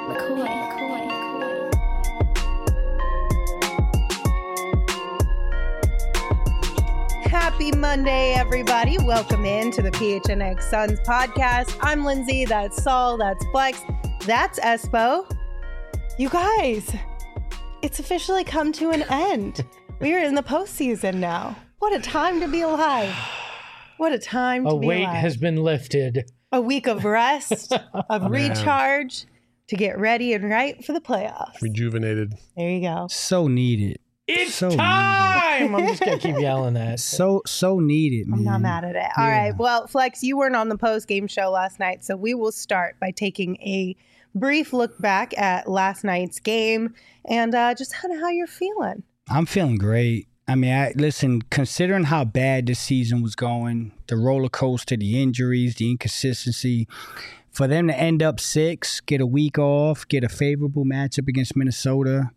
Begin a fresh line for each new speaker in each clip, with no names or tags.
Happy Monday, everybody. Welcome in to the PHNX Suns podcast. I'm Lindsay. That's Saul. That's Flex. That's Espo. You guys, it's officially come to an end. We are in the postseason now. What a time to be alive. What a time to be alive.
A weight has been lifted.
A week of rest, of recharge to get ready and right for the playoffs.
Rejuvenated.
There you go.
So needed.
It's
so
time! I'm just going to keep yelling that.
So needed, man.
I'm not mad at it. All right. Well, Flex, you weren't on the post-game show last night, so we will start by taking a brief look back at last night's game and just kind of how you're feeling.
I'm feeling great. I mean, listen, considering how bad this season was going, the roller coaster, the injuries, the inconsistency, for them to end up 6, get a week off, get a favorable matchup against Minnesota.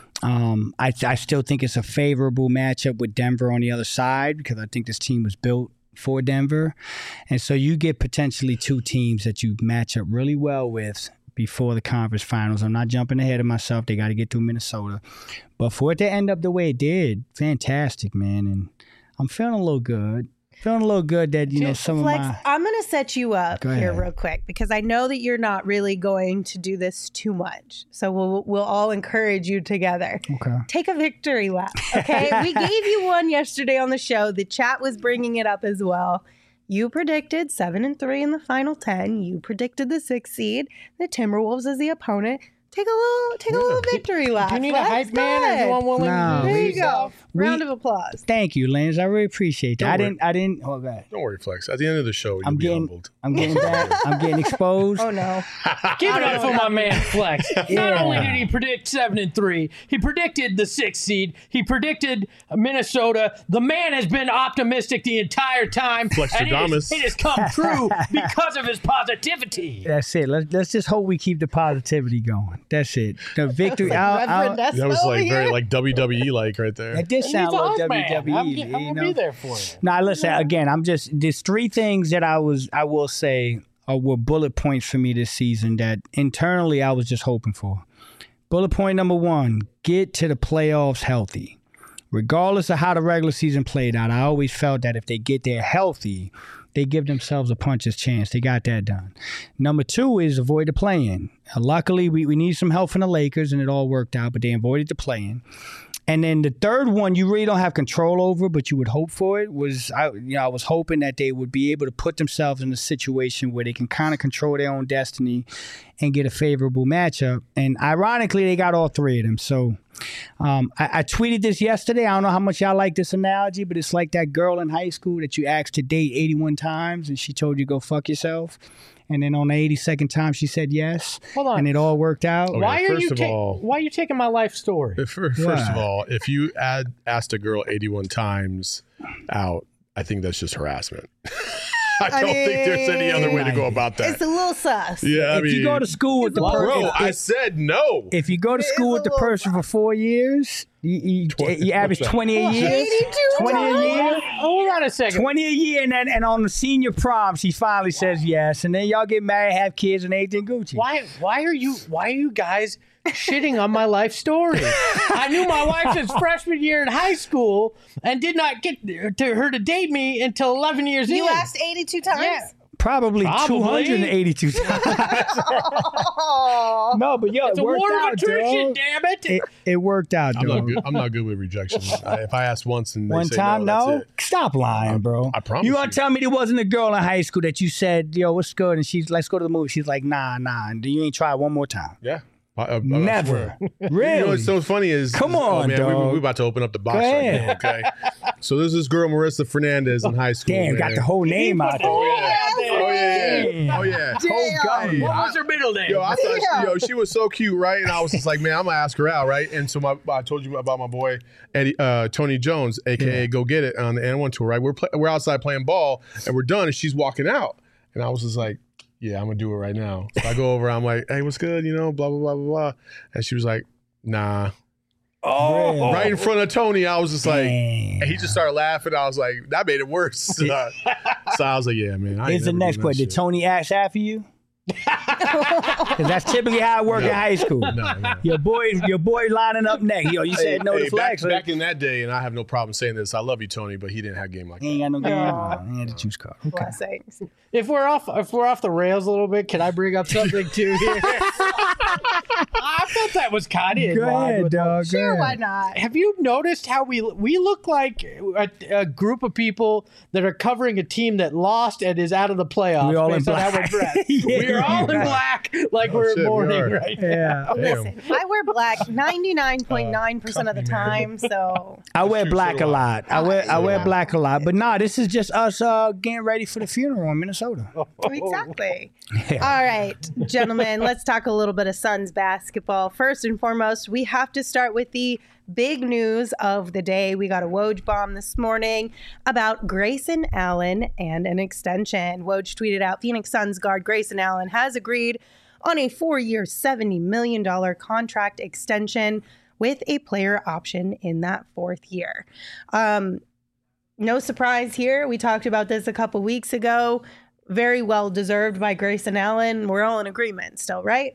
I still think it's a favorable matchup with Denver on the other side because I think this team was built for Denver. And so you get potentially 2 teams that you match up really well with before the conference finals. I'm not jumping ahead of myself. They got to get through Minnesota. But for it to end up the way it did, fantastic, man. And I'm feeling a little good. Feeling a little good that, some
Flex,
of my...
I'm going to set you up here
ahead.
real quick because I know that you're not really going to do this too much. So we'll all encourage you together.
Okay.
Take a victory lap, okay? We gave you one yesterday on the show. The chat was bringing it up as well. You predicted 7-3 in the final 10. You predicted the 6th seed. The Timberwolves as the opponent. Take a little victory lap.
Do you need a hype man or you want one?
No.
There you go. Round of applause.
Thank you, Lance. I really appreciate that. I didn't. Hold on.
Don't worry, Flex. At the end of the show, you'll be humbled.
I'm getting back. I'm getting exposed.
Oh no!
Give it up for my man Flex. Not only did he predict 7-3, he predicted the 6th seed. He predicted Minnesota. The man has been optimistic the entire time.
Flextradamus.
It has come true because of his positivity.
That's it. Let's just hope we keep the positivity going. That's it. The victory.
Reverend
That was
Espo
like
here.
very like WWE like right there.
That did sound like WWE.
I'm going to be there for you.
Now, listen, again, there's 3 things that I will say were bullet points for me this season that internally I was just hoping for. Bullet point number 1, get to the playoffs healthy. Regardless of how the regular season played out, I always felt that if they get there healthy, they give themselves a puncher's chance. They got that done. Number 2 is avoid the play-in. Luckily, we need some help from the Lakers, and it all worked out, but they avoided the play-in. And then the third one you really don't have control over, but you would hope for it, was I was hoping that they would be able to put themselves in a situation where they can kind of control their own destiny and get a favorable matchup. And ironically, they got all 3 of them. So I tweeted this yesterday. I don't know how much y'all like this analogy, but it's like that girl in high school that you asked to date 81 times and she told you go fuck yourself. And then on the 82nd time, she said yes. Hold on. And it all worked out.
Okay,
why are you taking my life story?
First of all, if you asked a girl 81 times out, I think that's just harassment. I don't think there's any other way to go about that.
It's a little sus.
Yeah,
if you go to school with the person,
bro, I said no.
If you go to school with the person for 4 years, you average 20 a year.
82
20 a year.
Hold on a second.
20 a year, and on the senior prom, she finally says yes, and then y'all get married, have kids, and everything Gucci.
Why are you guys shitting on my life story? I knew my wife since freshman year in high school and did not get her to date me until 11 years in.
You asked 82 times?
Yeah.
Probably 282 times. No, but yo,
It's
it
a
worked
war of
out,
attrition,
dog.
damn it.
It worked out, dog.
I'm not good with rejection. If I ask once and they
One
say
time,
no,
no?
that's it.
Stop lying, bro.
I promise
You
you.
want to tell me there wasn't a girl in high school that you said, yo, what's good? And she's, let's go to the movie. She's like, nah. And you ain't try one more time.
Yeah.
Never. Really?
You know what's so funny is...
Come on,
man,
dog.
We're about to open up the box
Go
right
ahead.
now, okay? So there's this girl, Marissa Fernandez, in high school.
Damn,
man.
got the whole name out there.
Oh, yeah.
Damn.
Oh, yeah.
Whole
What was her middle name?
Yo, I thought she was so cute, right? And I was just like, man, I'm gonna ask her out, right? And so I told you about my boy Eddie, Tony Jones, aka Go Get It, on the N1 tour, right? We're outside playing ball, and we're done, and she's walking out, and I was just like, yeah, I'm gonna do it right now. So I go over, I'm like, hey, what's good? You know, blah blah blah blah blah, and she was like, nah.
Oh,
Right in front of Tony, I was just like,
Damn.
and he just started laughing. I was like, that made it worse. So I was like, yeah, man. I ain't
Here's the
never
next
doing that
question. Did
shit.
Tony ask after you? Because that's typically how it worked in high school.
No.
Your boy lining up next. Yo, you said no to flex.
Back in that day, and I have no problem saying this, I love you, Tony, but he didn't have a game like
He
that.
ain't got no game. He had the juice card. Okay.
Blessings.
If we're off the rails a little bit, can I bring up something too here? I thought that was kind of
Go ahead, dog.
Sure, why not?
Have you noticed how we look like a group of people that are covering a team that lost and is out of the playoffs?
We all in
based on how
black.
we're dressed.
Yeah,
We're all in black, like we're
shit, we
mourning
are.
right now.
Yeah.
Listen, I wear black 99.9% of the time, so
I wear black
so
a
do
lot. I wear black a lot. But nah, this is just us getting ready for the funeral in Minnesota.
exactly. All right, gentlemen, let's talk a little bit of Suns basketball. First and foremost, we have to start with the big news of the day. We got a Woj bomb this morning about Grayson Allen and an extension. Woj tweeted out, Phoenix Suns guard Grayson Allen has agreed on a 4-year, $70 million contract extension with a player option in that 4th year. No surprise here. We talked about this a couple weeks ago. Very well deserved by Grayson Allen. We're all in agreement still, right?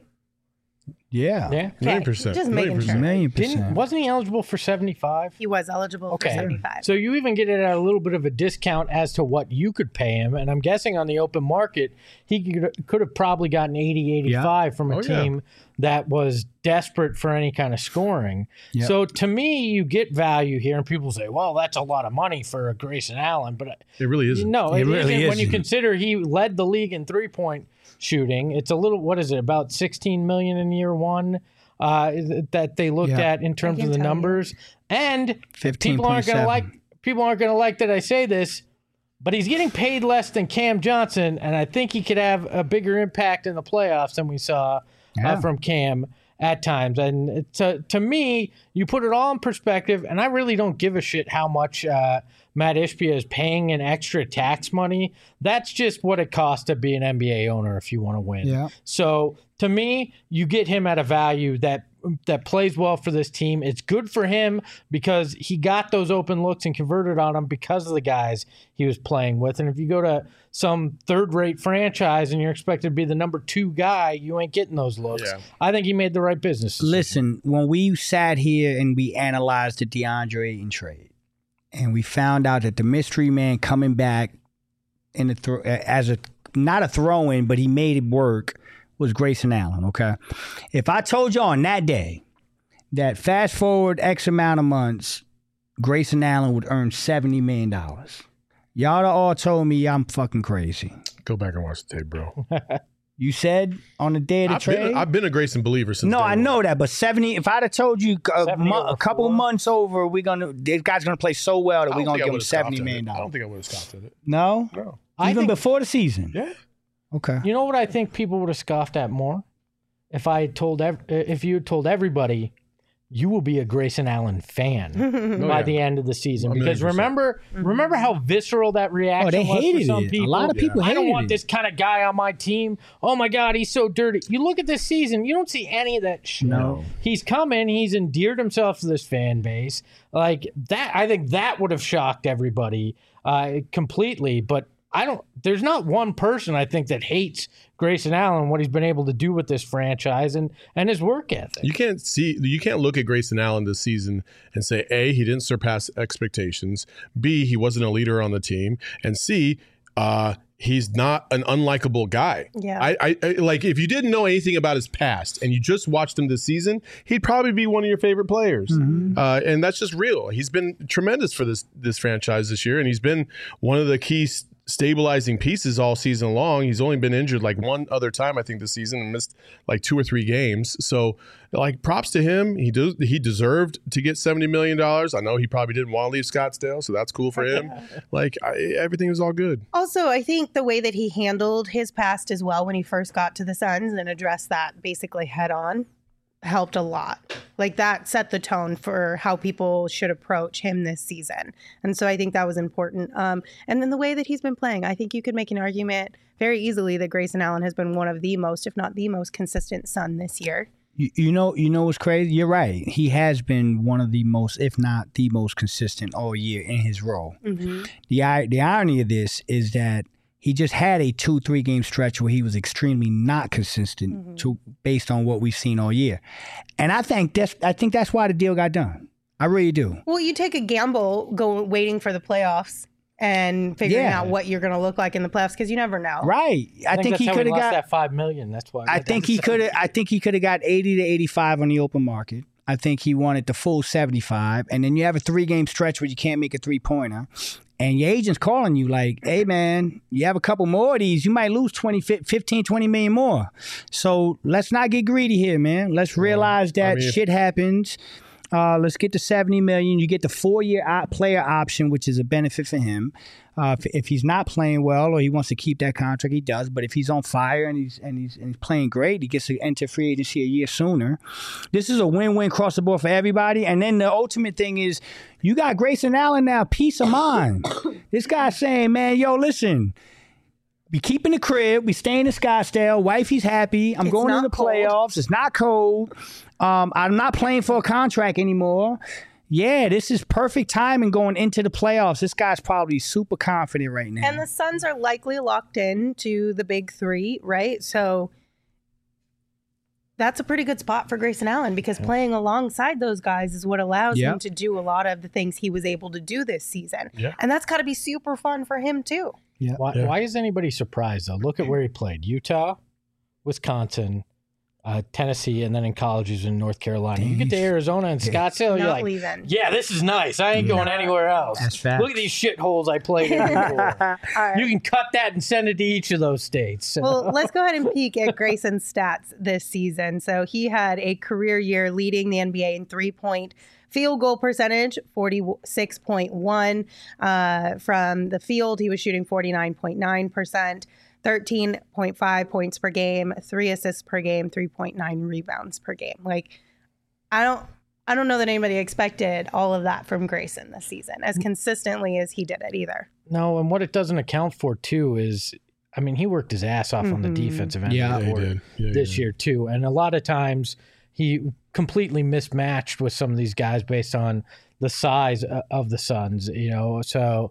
Yeah.
Yeah.
Okay,
100%.
just making sure.
1,000,000%.
Wasn't he eligible for 75?
He was eligible for 75.
So you even get it at a little bit of a discount as to what you could pay him. And I'm guessing on the open market, he could have probably gotten 80, 85 from a team that was desperate for any kind of scoring.
Yeah.
So to me, you get value here. And people say, well, that's a lot of money for a Grayson Allen. But
It really isn't.
no,
It
it
really
isn't when you
isn't.
consider he led the league in three-point shooting. It's a little, what is it, about $16 million in year one? That they looked at in terms of the numbers, and
15.7.
people aren't going to like that I say this, but he's getting paid less than Cam Johnson, and I think he could have a bigger impact in the playoffs than we saw from Cam at times. And to me, you put it all in perspective, and I really don't give a shit how much Matt Ishbia is paying in extra tax money. That's just what it costs to be an NBA owner if you want to win.
Yeah.
So to me, you get him at a value that plays well for this team. It's good for him because he got those open looks and converted on them because of the guys he was playing with. And if you go to some third-rate franchise and you're expected to be the number 2 guy, you ain't getting those looks.
Yeah.
I think he made the right business decision.
Listen, when we sat here and we analyzed the DeAndre Ayton trade, and we found out that the mystery man coming back in the not a throw-in, but he made it work, was Grayson Allen, okay? If I told you on that day that fast forward X amount of months, Grayson Allen would earn $70 million, y'all all told me I'm fucking crazy.
Go back and watch the tape, bro.
You said on the day of the trade?
I've been a Grayson believer since
No,
day
I
one.
know that, but 70. If I'd have told you a couple of
4.
months over, this guy's gonna play so well that
I
we're
don't
gonna
think I
give him
would've scoffed
$70
at
million.
it. I don't think I would have scoffed at it.
No,
No.
even
think-
before the season.
Yeah.
Okay.
You know what I think people would have scoffed at more? If you had told everybody, you will be a Grayson Allen fan by the end of the season. Because
1,000,000%.
remember how visceral that reaction
they
was for
hated
some
it.
people?
A lot of people
I don't
hated
want
it.
this kind of guy on my team. Oh my God, he's so dirty. You look at this season, you don't see any of that shit.
No.
He's come in, he's endeared himself to this fan base. Like that, I think that would have shocked everybody completely. But there's not one person I think that hates Grayson Allen, what he's been able to do with this franchise and his work ethic.
You can't look at Grayson Allen this season and say, A, he didn't surpass expectations, B, he wasn't a leader on the team, and C, he's not an unlikable guy.
Yeah.
I like, if you didn't know anything about his past and you just watched him this season, he'd probably be one of your favorite players. And that's just real. He's been tremendous for this franchise this year, and he's been one of the key stabilizing pieces all season long. He's only been injured like one other time, I think, this season, and missed like 2 or 3 games. So, like, props to him. He deserved to get $70 million. I know he probably didn't want to leave Scottsdale, so that's cool for him. Like, everything was all good.
Also, I think the way that he handled his past as well when he first got to the Suns and addressed that basically head on helped a lot. Like that set the tone for how people should approach him this season. And so I think that was important. And then the way that he's been playing, I think you could make an argument very easily that Grayson Allen has been one of the most, if not the most consistent Sun this year.
You know what's crazy? You're right. He has been one of the most, if not the most consistent all year in his role. The irony of this is that He just had a 2-3 game stretch where he was extremely not consistent based on what we've seen all year. And I think that's why the deal got done. I really do.
Well, you take a gamble waiting for the playoffs and figuring out what you're going to look like in the playoffs because you never know.
Right. I think he could have got
that $5 million. That's why.
I think he could have got 80 to 85 on the open market. I think he wanted the full 75, and then you have a 3-game stretch where you can't make a 3-pointer. And your agent's calling you like, hey, man, you have a couple more of these, you might lose 15, 20 million more. So let's not get greedy here, man. Let's realize that shit happens. Let's get to 70 million. You get the 4-year player option, which is a benefit for him. If he's not playing well or he wants to keep that contract, he does. But if he's on fire and he's playing great, he gets to enter free agency a year sooner. This is a win-win across the board for everybody. And then the ultimate thing is you got Grayson Allen now, peace of mind. This guy's saying, man, yo, listen, we keeping the crib. We staying in Scottsdale. Wifey's happy. I'm going to the playoffs. It's not cold. I'm not playing for a contract anymore. Yeah, this is perfect timing going into the playoffs. This guy's probably super confident right now.
And the Suns are likely locked in to the big 3, right? So that's a pretty good spot for Grayson Allen because playing alongside those guys is what allows him to do a lot of the things he was able to do this season. Yeah. And that's got to be super fun for him too.
Yeah. Why is anybody surprised, though? Look at where he played. Utah, Wisconsin, Tennessee, and then in college he's in North Carolina. You get to Arizona and Scottsdale, you're like,
leaving.
Yeah, this is nice. I ain't going anywhere else.
That's fact.
Look at these shitholes I played in before. Right. You can cut that and send it to each of those states.
Well, let's go ahead and peek at Grayson's stats this season. So he had a career year leading the NBA in 3-point field goal percentage, 46.1 from the field. He was shooting 49.9%. 13.5 points per game, 3 assists per game, 3.9 rebounds per game. Like, I don't know that anybody expected all of that from Grayson this season as consistently as he did it either.
No, and what it doesn't account for too is, I mean, he worked his ass off on the defensive end of the court this year too, and a lot of times he completely mismatched with some of these guys based on the size of the Suns. You know, so.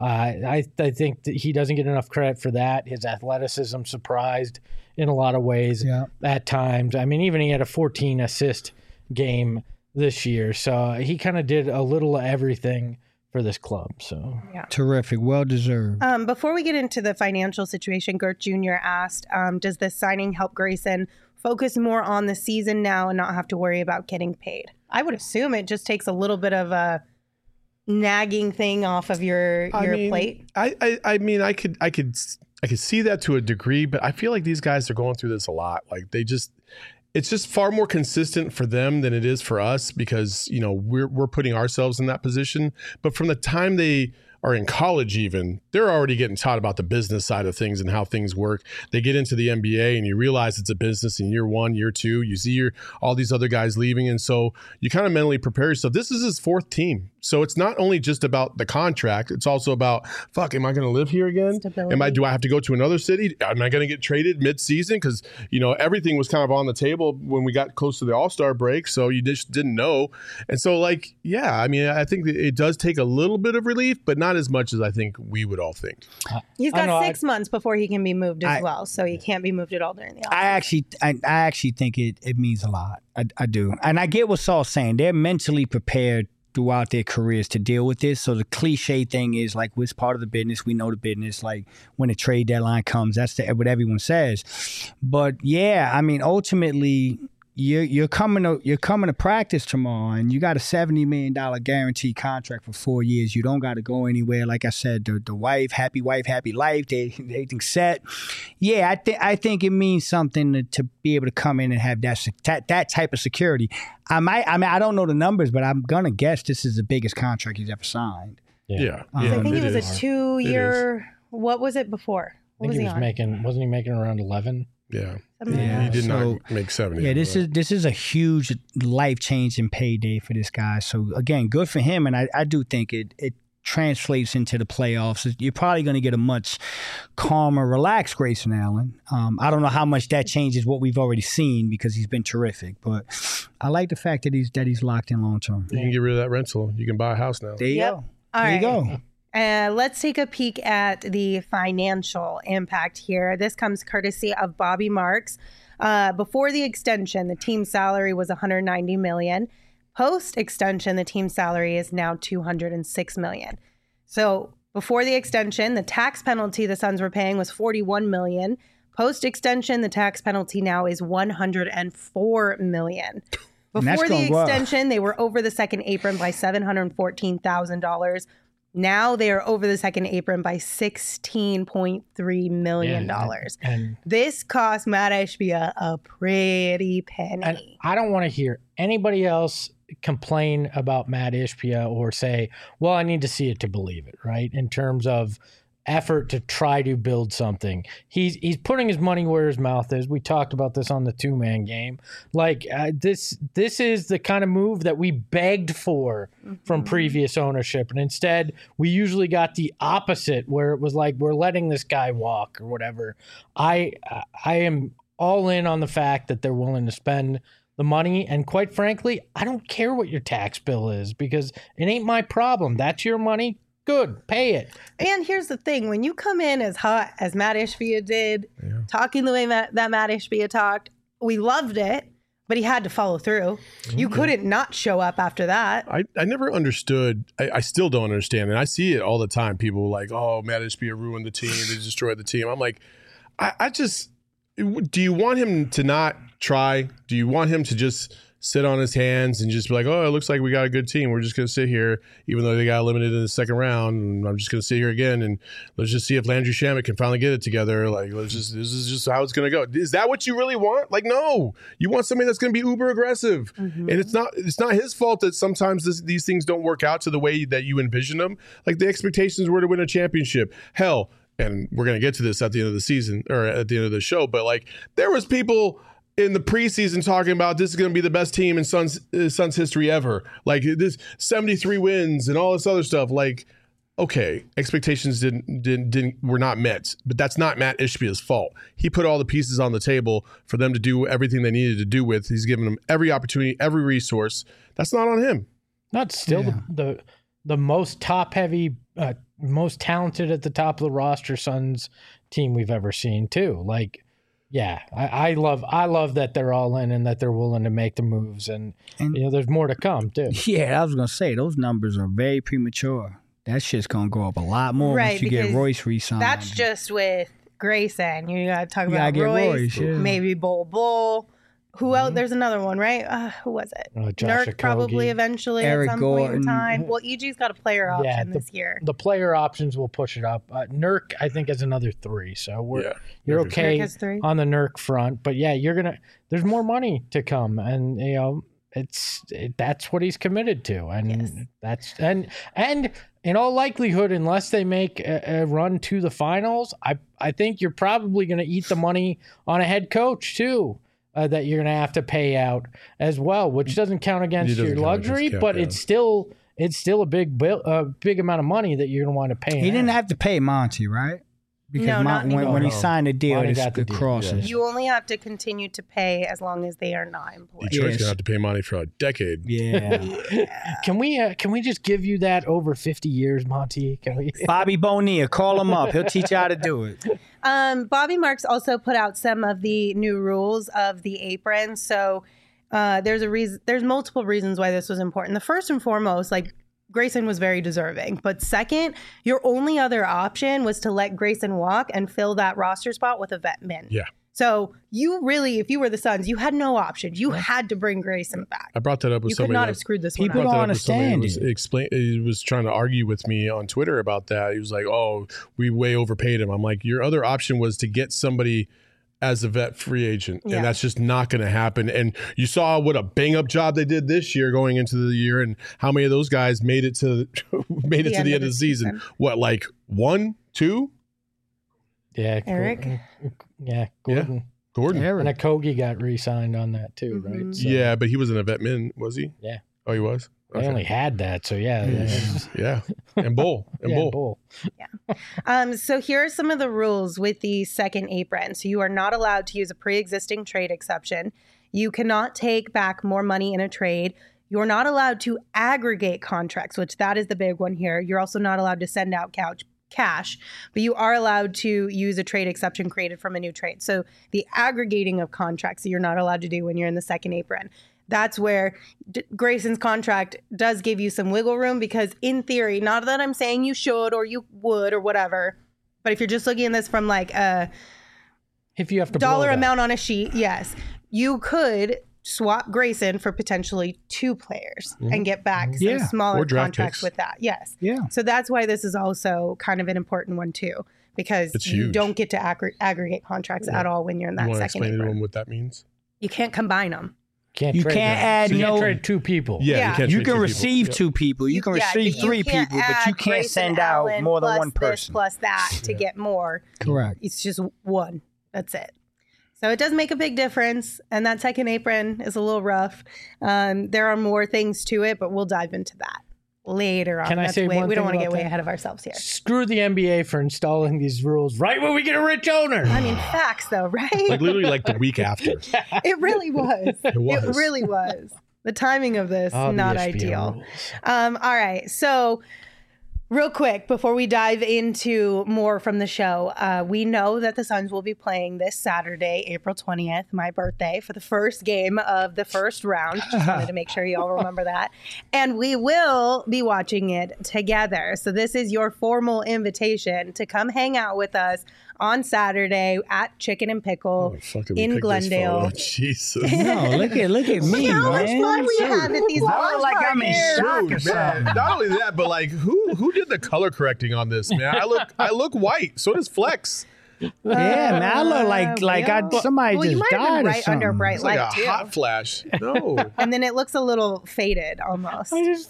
I think that he doesn't get enough credit for that. His athleticism surprised in a lot of ways at times. I mean, even he had a 14 assist game this year. So he kind of did a little of everything for this club. So
terrific. Well deserved.
Before we get into the financial situation, Gert Jr. asked, does this signing help Grayson focus more on the season now and not have to worry about getting paid? I would assume it just takes a little bit of a nagging thing off of your plate.
I mean, I could see that to a degree, but I feel like these guys are going through this a lot. Like it's just far more consistent for them than it is for us because, you know, we're putting ourselves in that position. But from the time they are in college even, they're already getting taught about the business side of things and how things work. They get into the NBA and you realize it's a business in year 1, year 2. You see all these other guys leaving. And so you kind of mentally prepare yourself. This is his 4th team. So it's not only just about the contract. It's also about, am I going to live here again? Do I have to go to another city? Am I going to get traded mid-season? Because, you know, everything was kind of on the table when we got close to the All-Star break. So you just didn't know. And so, like, I mean, I think that it does take a little bit of relief, but not as much as I think we would all think.
He's got 6 months before he can be moved as well. So he can't be moved at all during the offseason.
I actually think it means a lot. I do. And I get what Saul's saying. They're mentally prepared throughout their careers to deal with this. So the cliche thing is like, it's part of the business. We know the business. Like when the trade deadline comes, that's what everyone says. But yeah, I mean, ultimately, you're coming to practice tomorrow, and you got a $70 million guaranteed contract for 4 years. You don't got to go anywhere. Like I said, the wife, happy life. Everything's set. Yeah, I think it means something to be able to come in and have that type of security. I don't know the numbers, but I'm gonna guess this is the biggest contract he's ever signed.
Yeah.
I think it was a 2-year. What was it before?
I think he was making. Wasn't he making around 11?
Yeah. He did not make 70.
Yeah, this is a huge life-changing payday for this guy. So, again, good for him. And I do think it translates into the playoffs. You're probably going to get a much calmer, relaxed Grayson Allen. I don't know how much that changes what we've already seen because he's been terrific. But I like the fact that he's locked in long-term.
You can get rid of that rental. You can buy a house now.
There you go.
All
there
right.
you go.
Let's take a peek at the financial impact here. This comes courtesy of Bobby Marks. Before the extension, the team salary was $190 million. Post extension, the team salary is now $206 million. So before the extension, the tax penalty the Suns were paying was $41 million. Post extension, the tax penalty now is $104 million. Before the extension, they were over the second apron by $714,000. Now they are over the second apron by $16.3 million. And this cost Matt Ishbia a pretty penny.
And I don't want to hear anybody else complain about Matt Ishbia or say, well, I need to see it to believe it, right? In terms of effort to try to build something. He's putting his money where his mouth is. We talked about this on the two-man game. Like this is the kind of move that we begged for from previous ownership. And instead we usually got the opposite where it was like, we're letting this guy walk or whatever. I am all in on the fact that they're willing to spend the money. And quite frankly, I don't care what your tax bill is because it ain't my problem. That's your money. Good, pay it.
And here's the thing. When you come in as hot as Matt Ishbia did, talking the way that Matt Ishbia talked, we loved it, but he had to follow through. You couldn't not show up after that.
I never understood. I still don't understand. And I see it all the time. People like, oh, Matt Ishbia ruined the team. They destroyed the team. I'm like, I just, do you want him to not try? Do you want him to just sit on his hands and just be like, oh, it looks like we got a good team. We're just going to sit here, even though they got eliminated in the second round. And I'm just going to sit here again and let's just see if Landry Shamet can finally get it together. Like, this is just how it's going to go. Is that what you really want? Like, no, you want somebody that's going to be uber aggressive. And it's not his fault that sometimes these things don't work out to the way that you envision them. Like the expectations were to win a championship. Hell, and we're going to get to this at the end of the season or at the end of the show, but like there was people in the preseason talking about this is going to be the best team in Suns history ever. Like this 73 wins and all this other stuff. Like, okay, expectations were not met, but that's not Matt Ishbia's fault. He put all the pieces on the table for them to do everything they needed to do with. He's given them every opportunity, every resource. That's not on him.
Not still the most top heavy, most talented at the top of the roster Suns team we've ever seen too. Like, yeah, I love that they're all in and that they're willing to make the moves, and you know there's more to come too.
Yeah, I was gonna say those numbers are very premature. That shit's gonna go up a lot more once you get Royce re-signed.
That's just with Grayson. You gotta talk about Royce, maybe Bull. Who else? There's another one, right? Who was it? Nurk probably eventually
Eric
at some
Gordon.
point in time. Well, EG's got a player option this year.
The player options will push it up. Nurk, I think, is another 3. So you're okay on the Nurk front. But yeah, there's more money to come, and you know that's what he's committed to, and and in all likelihood, unless they make a run to the finals, I think you're probably going to eat the money on a head coach too. That you're going to have to pay out as well, which doesn't count against your luxury, but it's still a big amount of money that you're going to want to pay.
He didn't have to pay Monty, right? Because when he signed the deal, it crosses.
You only have to continue to pay as long as they are not employed.
Detroit's gonna have to pay Monty for a decade.
Yeah.
Can we just give you that over 50 years, Monty? Can we?
Bonilla, Bonilla, call him up. He'll teach you how to do it.
Bobby Marks also put out some of the new rules of the apron. So there's multiple reasons why this was important. The first and foremost, like, Grayson was very deserving. But second, your only other option was to let Grayson walk and fill that roster spot with a vet min.
Yeah.
So you really, if you were the Suns, you had no option. You had to bring Grayson back.
I brought that up with somebody.
You could not have screwed this one up.
People don't understand it.
He was trying to argue with me on Twitter about that. He was like, oh, we way overpaid him. I'm like, your other option was to get somebody as a vet free agent, and that's just not going to happen. And you saw what a bang up job they did this year going into the year, and how many of those guys made it to the end of the season. What, like 1, 2?
Yeah,
Eric.
Gordon.
Gordon.
And Okogie got re-signed on that too, right? So,
yeah, but he wasn't a vet min, was he?
Yeah.
Oh, he was.
They only had that, so yeah.
And Bull.
Bull.
Yeah. So here are some of the rules with the second apron. So you are not allowed to use a pre-existing trade exception. You cannot take back more money in a trade. You're not allowed to aggregate contracts, which that is the big one here. You're also not allowed to send out cash, but you are allowed to use a trade exception created from a new trade. So the aggregating of contracts you're not allowed to do when you're in the second apron. That's where Grayson's contract does give you some wiggle room, because in theory, not that I'm saying you should or you would or whatever, but if you're just looking at this from like a
if you have to
dollar amount on a sheet, yes, you could swap Grayson for potentially 2 players and get back some smaller contracts with that. Yes.
Yeah.
So that's why this is also kind of an important one too, because you don't get to aggregate contracts at all when you're in that second
explain
apron.
to them what that means?
You can't combine them.
You can't
add
so you can't trade 2 people.
You can receive 2 people. You can receive 3 people, but you can't send out more than one person.
Plus that to get more.
Correct.
It's just one. That's it. So it does make a big difference, and that second apron is a little rough. There are more things to it, but we'll dive into that later on.
Can I say one thing?
We don't want to get way ahead of ourselves here.
Screw the NBA for installing these rules right when we get a rich owner.
I mean, facts though, right?
Like literally like the week after.
It really was. It really was. The timing of this, not ideal. All right. So real quick, before we dive into more from the show, we know that the Suns will be playing this Saturday, April 20th, my birthday, for the first game of the first round. Just wanted to make sure you all remember that. And we will be watching it together. So this is your formal invitation to come hang out with us on Saturday at Chicken and Pickle in Glendale.
Jesus.
No, look at me,
Look how much fun we have at these watch
like I'm in
parties.
shock or something.
Not only that, but like who did the color correcting on this, man? I look white. So does Flex.
Yeah, man, I look like somebody
you
just
might have
died
been
or
right
something.
under bright
It's like
light
a
too.
hot flash. No.
And then it looks a little faded almost.
This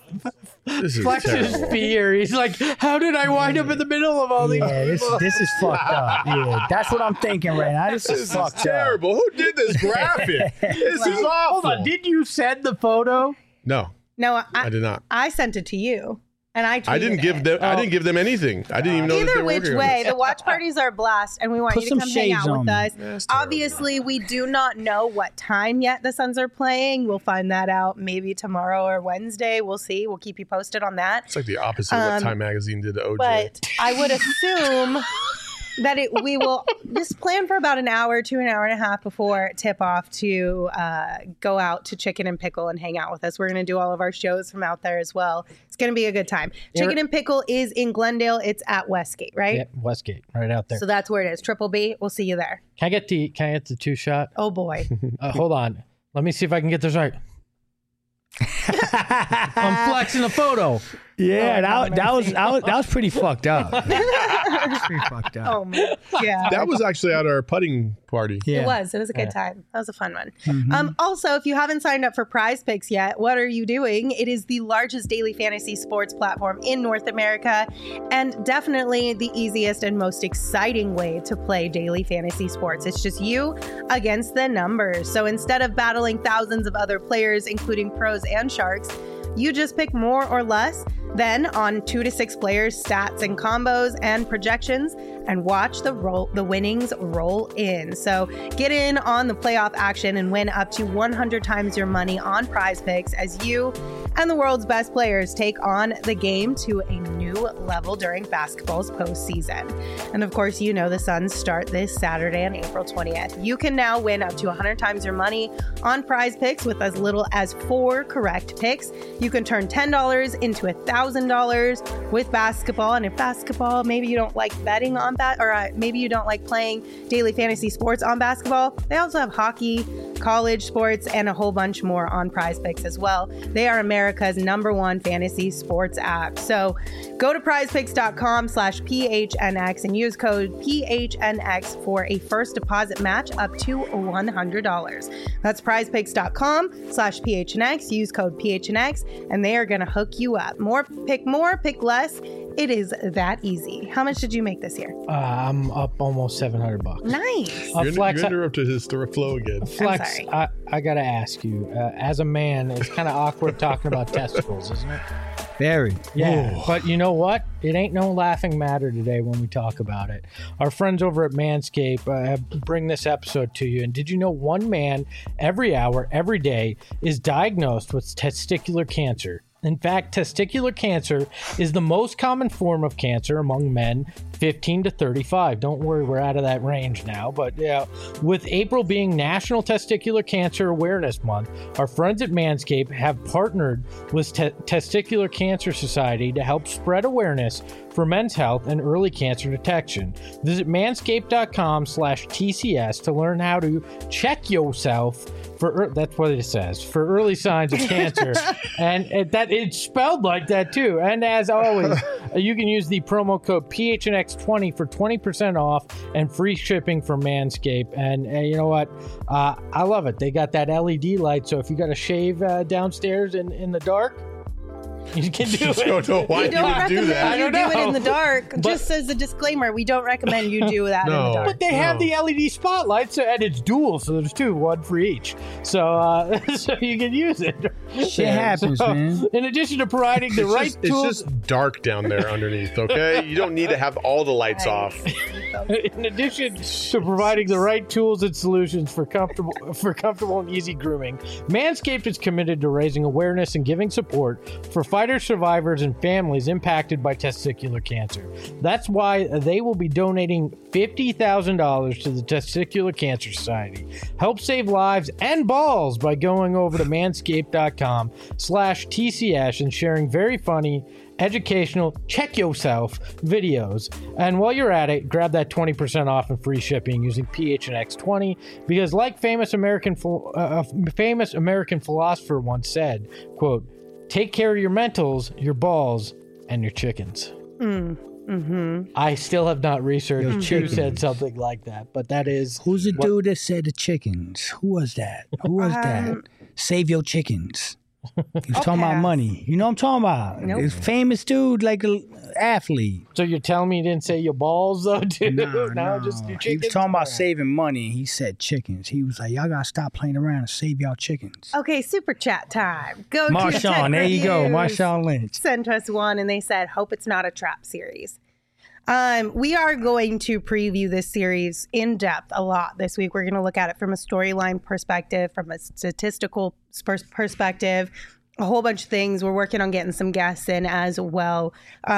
is
Flex's
terrible.
fear. He's like, how did I wind up in the middle of all these people?
This is fucked up. Yeah, that's what I'm thinking right now. This is fucked up.
Terrible. Who did this graphic? This is awful.
Hold on. Did you send the photo?
No,
No,
I did not.
I sent it to you, and I tweeted
I didn't give
it.
them. I didn't give them anything. I didn't even know that they
Either
were
which
working on
way,
this.
the watch parties are a blast, and we want
Put
you to
some
come hang
shades
out with
on.
us.
That's terrible.
Obviously, we do not know what time yet the Suns are playing. We'll find that out maybe tomorrow or Wednesday. We'll see. We'll keep you posted on that.
It's like the opposite of what Time Magazine did to OJ.
But I would assume that we will just plan for about an hour to an hour and a half before tip off to go out to Chicken and Pickle and hang out with us. We're going to do all of our shows from out there as well. It's going to be a good time. Chicken and Pickle is in Glendale. It's at Westgate, right?
Yep, Westgate, right out there.
So that's where it is. Triple B. We'll see you there.
Can I get the 2-shot?
Oh boy.
Hold on. Let me see if I can get this right. I'm flexing a photo.
Yeah, that was pretty fucked up. That's pretty fucked up.
Oh man. Yeah.
that was actually at our putting party.
Yeah.
It was a good time. That was a fun one. Also, if you haven't signed up for Prize Picks yet, what are you doing? It is the largest daily fantasy sports platform in North America, and definitely the easiest and most exciting way to play daily fantasy sports. It's just you against the numbers. So instead of battling thousands of other players, including pros and sharks, you just pick more or less, then on 2 to 6 players, stats and combos and projections, and watch the winnings roll in. So get in on the playoff action and win up to 100 times your money on Prize Picks as you and the world's best players take on the game to a new level during basketball's postseason. And of course, you know the Suns start this Saturday on April 20th. You can now win up to 100 times your money on Prize Picks with as little as 4 correct picks. You can turn $10 into $1,000 with basketball. And if basketball, maybe you don't like betting on that, or maybe you don't like playing daily fantasy sports on basketball, they also have hockey, college sports, and a whole bunch more on Prize Picks as well. They are America's #1 fantasy sports app. So go to prizepicks.com/PHNX and use code PHNX for a first deposit match up to $100. That's prizepicks.com/PHNX. Use code PHNX and they are going to hook you up. More, pick less. It is that easy. How much did you make this year?
I'm up almost $700.
Nice.
You
Flex,
interrupted his flow again.
Flex,
sorry.
I got to ask you, as a man, it's kind of awkward talking about testicles, isn't it?
Very.
Yeah, but you know what? It ain't no laughing matter today when we talk about it. Our friends over at Manscaped bring this episode to you. And did you know one man every hour, every day is diagnosed with testicular cancer? In fact, testicular cancer is the most common form of cancer among men 15 to 35. Don't worry, we're out of that range now. But yeah, with April being National Testicular Cancer Awareness Month, our friends at Manscaped have partnered with Testicular Cancer Society to help spread awareness for men's health and early cancer detection. Visit manscaped.com/TCS to learn how to check yourself for, that's what it says, for early signs of cancer. And that it's spelled like that too. And as always, you can use the promo code PHNX20 for 20% off and free shipping from Manscaped. And you know what? I love it. They got that LED light, so if you got to shave downstairs in the dark, you can do it.
I don't know why you would do that.
I don't know. Do it in the dark. Just as a disclaimer, we don't recommend you do that in the dark.
But they have the LED spotlights, and it's dual, so there's two, one for each. So so you can use it.
Shit happens, man.
In addition to providing the right tools.
It's just dark down there underneath, okay? You don't need to have all the lights off.
In addition to providing the right tools and solutions for comfortable and easy grooming, Manscaped is committed to raising awareness and giving support for fighter survivors and families impacted by testicular cancer. That's why they will be donating $50,000 to the Testicular Cancer Society. Help save lives and balls by going over to manscaped.com/TCS and sharing very funny, educational, check yourself videos. And while you're at it, grab that 20% off and free shipping using PHNX20, because like famous American philosopher once said, quote, "Take care of your mentals, your balls, and your chickens." I still have not researched who said something like that, but that is...
Who's the dude that said the chickens? Who was that? Save your chickens. He was talking about money. You know what I'm talking about?
Nope.
This famous dude, like an athlete.
So you're telling me you didn't say your balls, though, dude? No, just your chickens?
He was talking about saving money. He said chickens. He was like, y'all got to stop playing around and save y'all chickens.
Okay, super chat time. Go to
Marshawn, there you go. Marshawn Lynch.
Sent us one, and they said, hope it's not a trap series. We are going to preview this series in depth a lot this week. We're going to look at it from a storyline perspective, from a statistical perspective, a whole bunch of things. We're working on getting some guests in as well.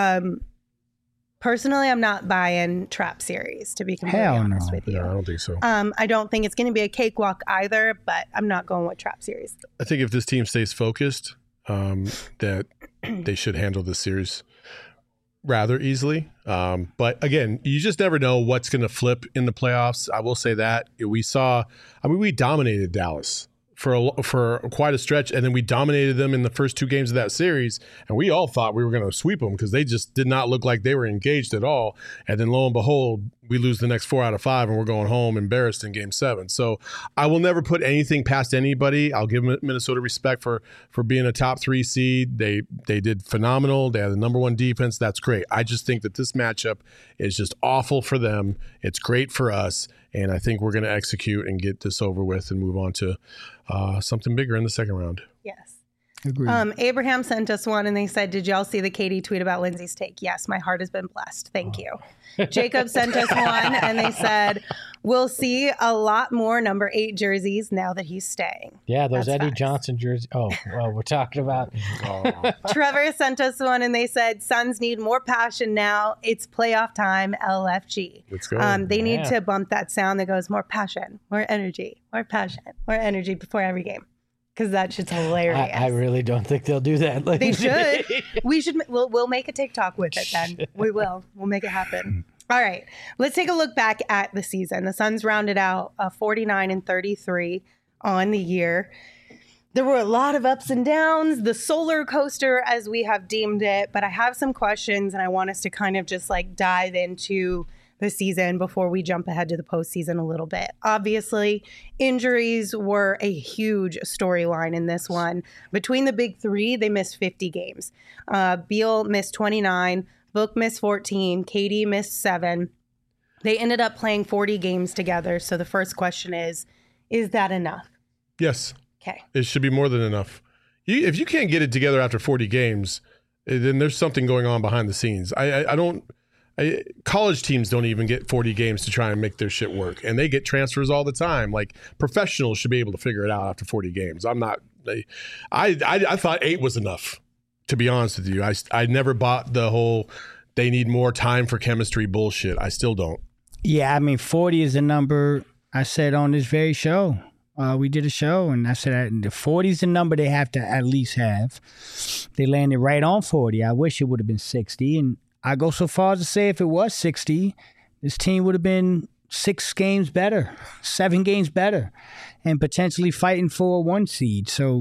Personally, I'm not buying trap series, to be completely honest with you.
No, I don't think so.
I don't think it's going to be a cakewalk either, but I'm not going with trap series.
I think if this team stays focused, that they should handle this series rather easily. But again, you just never know what's going to flip in the playoffs. I will say that we dominated Dallas for quite a stretch, and then we dominated them in the first two games of that series, and we all thought we were going to sweep them because they just did not look like they were engaged at all. And then lo and behold, we lose the next 4 out of 5, and we're going home embarrassed in Game 7. So I will never put anything past anybody. I'll give Minnesota respect for being a top 3 seed. They did phenomenal. They had the number 1 defense. That's great. I just think that this matchup is just awful for them. It's great for us, and I think we're going to execute and get this over with and move on to something bigger in the second round.
Yes.
Agreed.
Abraham sent us one, and they said, did y'all see the Katie tweet about Lindsay's take? Yes, my heart has been blessed. Thank you. Jacob sent us one, and they said, we'll see a lot more number 8 jerseys now that he's staying.
Yeah, those
That's
Eddie
facts.
Johnson jerseys. Oh, well, we're talking about...
Trevor sent us one, and they said, Suns need more passion now. It's playoff time, LFG.
Let's go.
They need to bump that sound that goes more passion, more energy, more passion, more energy before every game. Because that shit's hilarious.
I really don't think they'll do that.
They should. We should. We'll make a TikTok with it then. We will. We'll make it happen. All right. Let's take a look back at the season. The Suns rounded out 49-33 on the year. There were a lot of ups and downs, the solar coaster as we have deemed it. But I have some questions, and I want us to kind of just like dive into the season before we jump ahead to the postseason a little bit. Obviously, injuries were a huge storyline in this one. Between the big three, they missed 50 games. Beal missed 29, Book missed 14, KD missed 7. They ended up playing 40 games together. So the first question is that enough?
Yes.
Okay.
It should be more than enough. If you can't get it together after 40 games, then there's something going on behind the scenes. College teams don't even get 40 games to try and make their shit work, and they get transfers all the time. Like, professionals should be able to figure it out after 40 games. I thought 8 was enough, to be honest with you. I never bought the whole they need more time for chemistry bullshit. I still don't.
Yeah, I mean, 40 is a number I said on this very show. We did a show, and I said the 40 is the number they have to at least have. They landed right on 40. I wish it would have been 60, and I go so far as to say if it was 60, this team would have been 6 games better, 7 games better, and potentially fighting for a 1 seed. So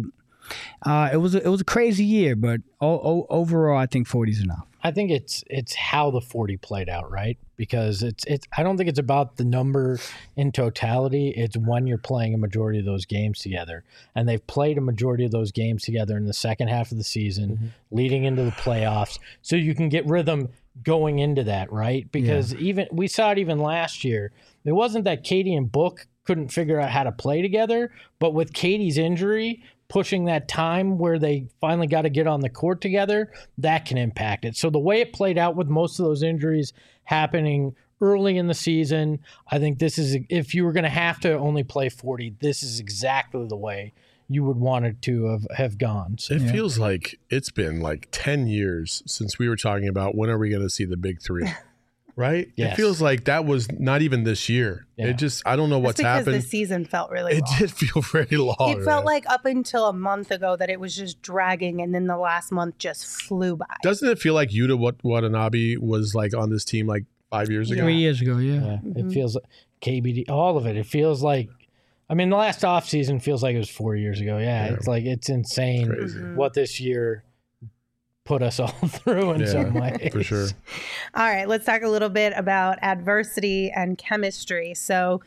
it was a crazy year, but overall, I think 40 is enough.
I think it's how the 40 played out, right? Because it's I don't think it's about the number in totality. It's when you're playing a majority of those games together. And they've played a majority of those games together in the second half of the season, leading into the playoffs. So you can get rhythm going into that, right? Because even we saw it even last year. It wasn't that Katie and Book couldn't figure out how to play together, but with Katie's injury, pushing that time where they finally got to get on the court together, that can impact it. So the way it played out with most of those injuries happening early in the season, I think this is, if you were going to have to only play 40, this is exactly the way you would want it to have gone. So,
it feels like it's been like 10 years since we were talking about when are we going to see the big 3. Right?
Yes.
It feels like that was not even this year.
Yeah.
It just, I don't know what's happened.
Because the season felt really long.
It did feel very long.
It felt like up until a month ago that it was just dragging, and then the last month just flew by.
Doesn't it feel like Yuta Watanabe was like on this team like 5 years ago?
3 years ago, yeah.
It feels like KBD, all of it. It feels like, I mean, the last offseason feels like it was 4 years ago. Yeah. It's like, it's insane what this year put us all through in some ways.
For sure.
All right, let's talk a little bit about adversity and chemistry. So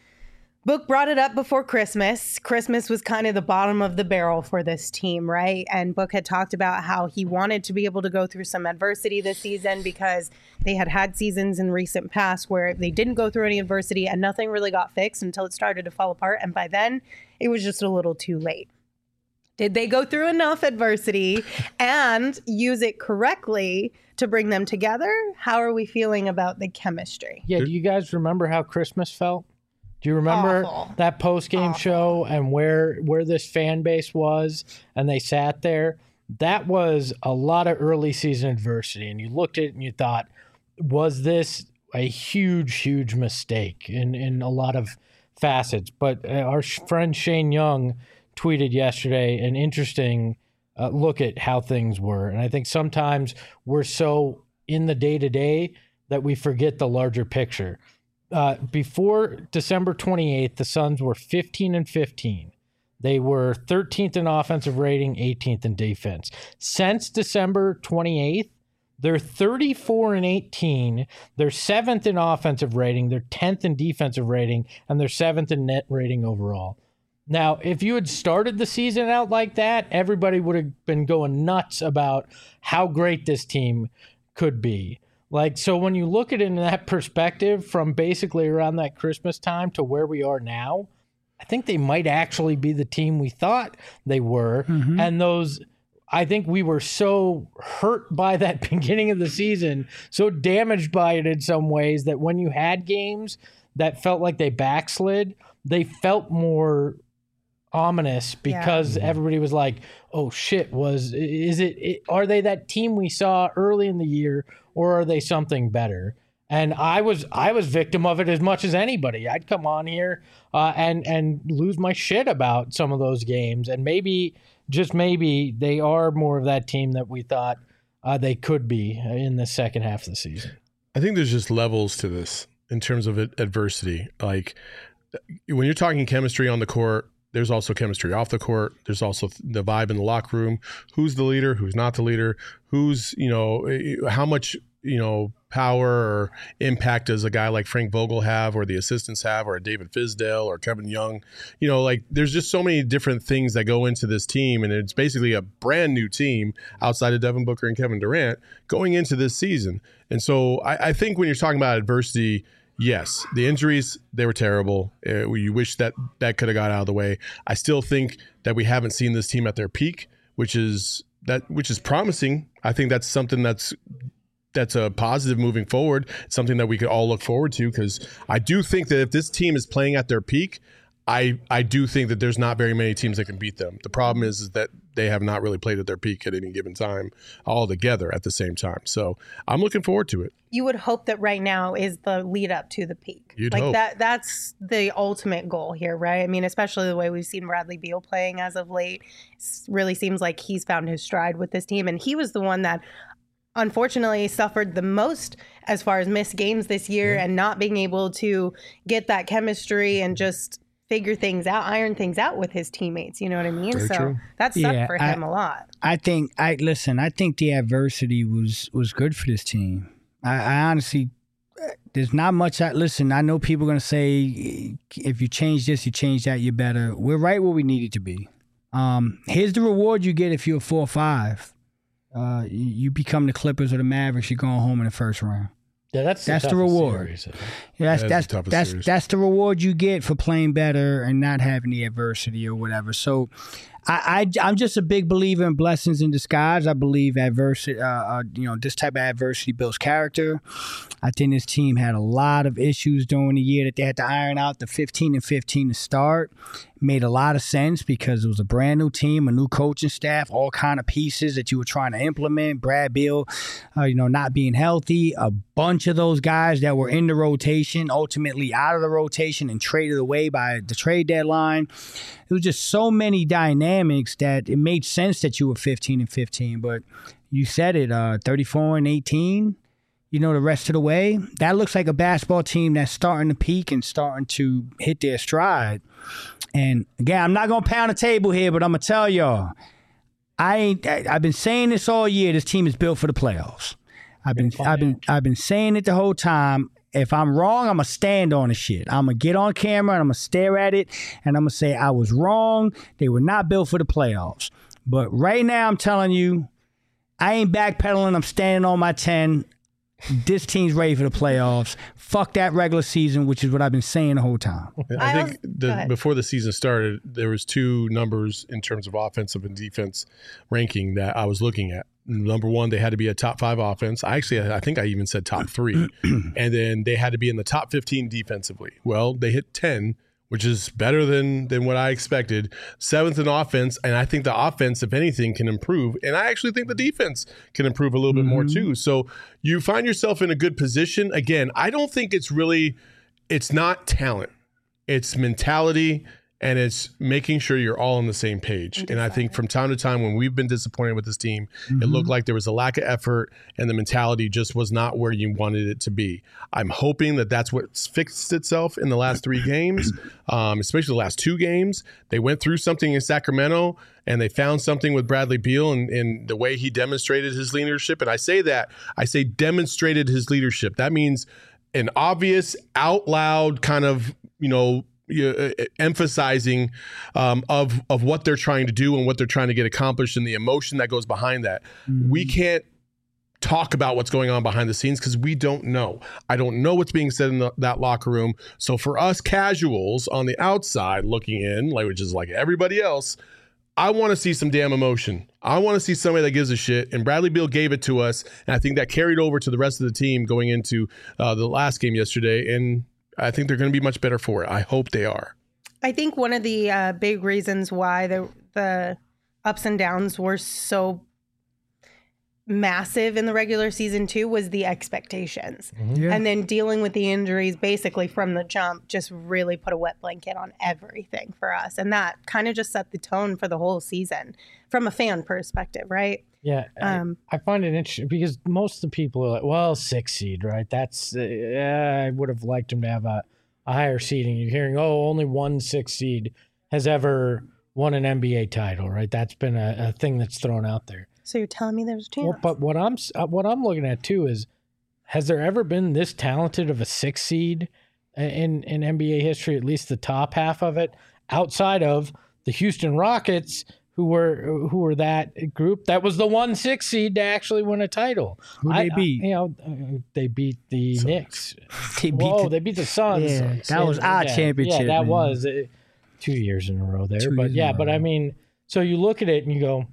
Book brought it up before Christmas. Christmas was kind of the bottom of the barrel for this team, right? And Book had talked about how he wanted to be able to go through some adversity this season because they had seasons in recent past where they didn't go through any adversity and nothing really got fixed until it started to fall apart. And by then, it was just a little too late. Did they go through enough adversity and use it correctly to bring them together? How are we feeling about the chemistry?
Yeah, do you guys remember how Christmas felt? Do you remember that post-game show and where this fan base was and they sat there? That was a lot of early season adversity. And you looked at it and you thought, was this a huge, huge mistake in a lot of facets? But our friend Shane Young tweeted yesterday an interesting look at how things were. And I think sometimes we're so in the day-to-day that we forget the larger picture. Before December 28th, the Suns were 15-15. They were 13th in offensive rating, 18th in defense. Since December 28th, they're 34-18. They're 7th in offensive rating, they're 10th in defensive rating, and they're 7th in net rating overall. Now, if you had started the season out like that, everybody would have been going nuts about how great this team could be. Like, so when you look at it in that perspective from basically around that Christmas time to where we are now, I think they might actually be the team we thought they were. Mm-hmm. And I think we were so hurt by that beginning of the season, so damaged by it in some ways that when you had games that felt like they backslid, they felt more ominous because everybody was like, oh shit, are they that team we saw early in the year, or are they something better? And I was victim of it as much as anybody. I'd come on here and lose my shit about some of those games, and maybe, just maybe, they are more of that team that we thought they could be in the second half of the season.
I think there's just levels to this in terms of adversity. Like, when you're talking chemistry on the court, there's also chemistry off the court. There's also the vibe in the locker room. Who's the leader? Who's not the leader? Who's, how much, power or impact does a guy like Frank Vogel have, or the assistants have, or a David Fizdale or Kevin Young? There's just so many different things that go into this team, and it's basically a brand new team outside of Devin Booker and Kevin Durant going into this season. And so I think when you're talking about adversity, yes, the injuries, they were terrible. You wish that could have got out of the way. I still think that we haven't seen this team at their peak, which is promising. I think that's something that's a positive moving forward, something that we could all look forward to, because I do think that if this team is playing at their peak, I do think that there's not very many teams that can beat them. The problem is that they have not really played at their peak at any given time all together at the same time. So I'm looking forward to it.
You would hope that right now is the lead up to the peak.
You'd
like
hope.
That's the ultimate goal here, right? I mean, especially the way we've seen Bradley Beal playing as of late. It really seems like he's found his stride with this team. And he was the one that unfortunately suffered the most as far as missed games this year and not being able to get that chemistry and just figure things out, iron things out with his teammates. You know what I mean?
Very true.
That sucked for him a lot.
I think the adversity was good for this team. I honestly, there's not much. I know people are going to say, if you change this, you change that, you're better. We're right where we needed to be. Here's the reward you get if you're 4-5. You become the Clippers or the Mavericks, you're going home in the first round.
Yeah, that's
the reward. Yeah, that's the reward you get for playing better and not having the adversity or whatever. So I'm just a big believer in blessings in disguise. I believe adversity, this type of adversity builds character. I think this team had a lot of issues during the year that they had to iron out. The 15-15 to start made a lot of sense because it was a brand new team, a new coaching staff, all kind of pieces that you were trying to implement. Brad Beal, not being healthy, a bunch of those guys that were in the rotation, ultimately out of the rotation and traded away by the trade deadline. It was just so many dynamics that it made sense that you were 15-15. But you said it, 34-18. The rest of the way, that looks like a basketball team that's starting to peak and starting to hit their stride. And again, I'm not gonna pound the table here, but I'm gonna tell y'all, I've been saying this all year. This team is built for the playoffs. I've been saying it the whole time. If I'm wrong, I'm gonna stand on the shit. I'm gonna get on camera and I'm gonna stare at it and I'm gonna say I was wrong. They were not built for the playoffs. But right now, I'm telling you, I ain't backpedaling. I'm standing on my 10. This team's ready for the playoffs. Fuck that regular season, which is what I've been saying the whole time.
I think before the season started, there was two numbers in terms of offensive and defense ranking that I was looking at. Number one, they had to be a top 5 offense. I think I even said top 3. And then they had to be in the top 15 defensively. Well, they hit 10, which is better than what I expected. 7th in offense, and I think the offense, if anything, can improve. And I actually think the defense can improve a little bit more too. So you find yourself in a good position. Again, I don't think it's not talent. It's mentality, and it's making sure you're all on the same page. And I think from time to time when we've been disappointed with this team, it looked like there was a lack of effort and the mentality just was not where you wanted it to be. I'm hoping that that's what's fixed itself in the last 3 games, especially the last 2 games. They went through something in Sacramento and they found something with Bradley Beal and the way he demonstrated his leadership. And I say demonstrated his leadership. That means an obvious, out loud kind of, emphasizing of what they're trying to do and what they're trying to get accomplished and the emotion that goes behind that. We can't talk about what's going on behind the scenes because we don't know. I don't know what's being said in that locker room. So for us casuals on the outside looking in, which is like everybody else, I want to see some damn emotion. I want to see somebody that gives a shit. And Bradley Beal gave it to us. And I think that carried over to the rest of the team going into the last game yesterday. And I think they're going to be much better for it. I hope they are.
I think one of the big reasons why the ups and downs were so massive in the regular season too was the expectations. And then dealing with the injuries basically from the jump just really put a wet blanket on everything for us. And that kind of just set the tone for the whole season from a fan perspective, right?
Yeah, I find it interesting because most of the people are like, well, 6 seed, right? That's I would have liked him to have a higher seeding. You're hearing, only 1 6 seed has ever won an NBA title, right? That's been a thing that's thrown out there.
So you're telling me there's a chance?
Well, but what I'm looking at too is, has there ever been this talented of a 6 seed in NBA history? At least the top half of it, outside of the Houston Rockets, who were that group that was the 1 6 seed to actually win a title.
Who they beat?
They beat the
Suns.
Knicks.
They beat
the Suns.
Yeah, that was our championship.
Yeah, that
man.
was 2 years in a row there.
2 years in a
but
row.
I mean, so you look at it and you go,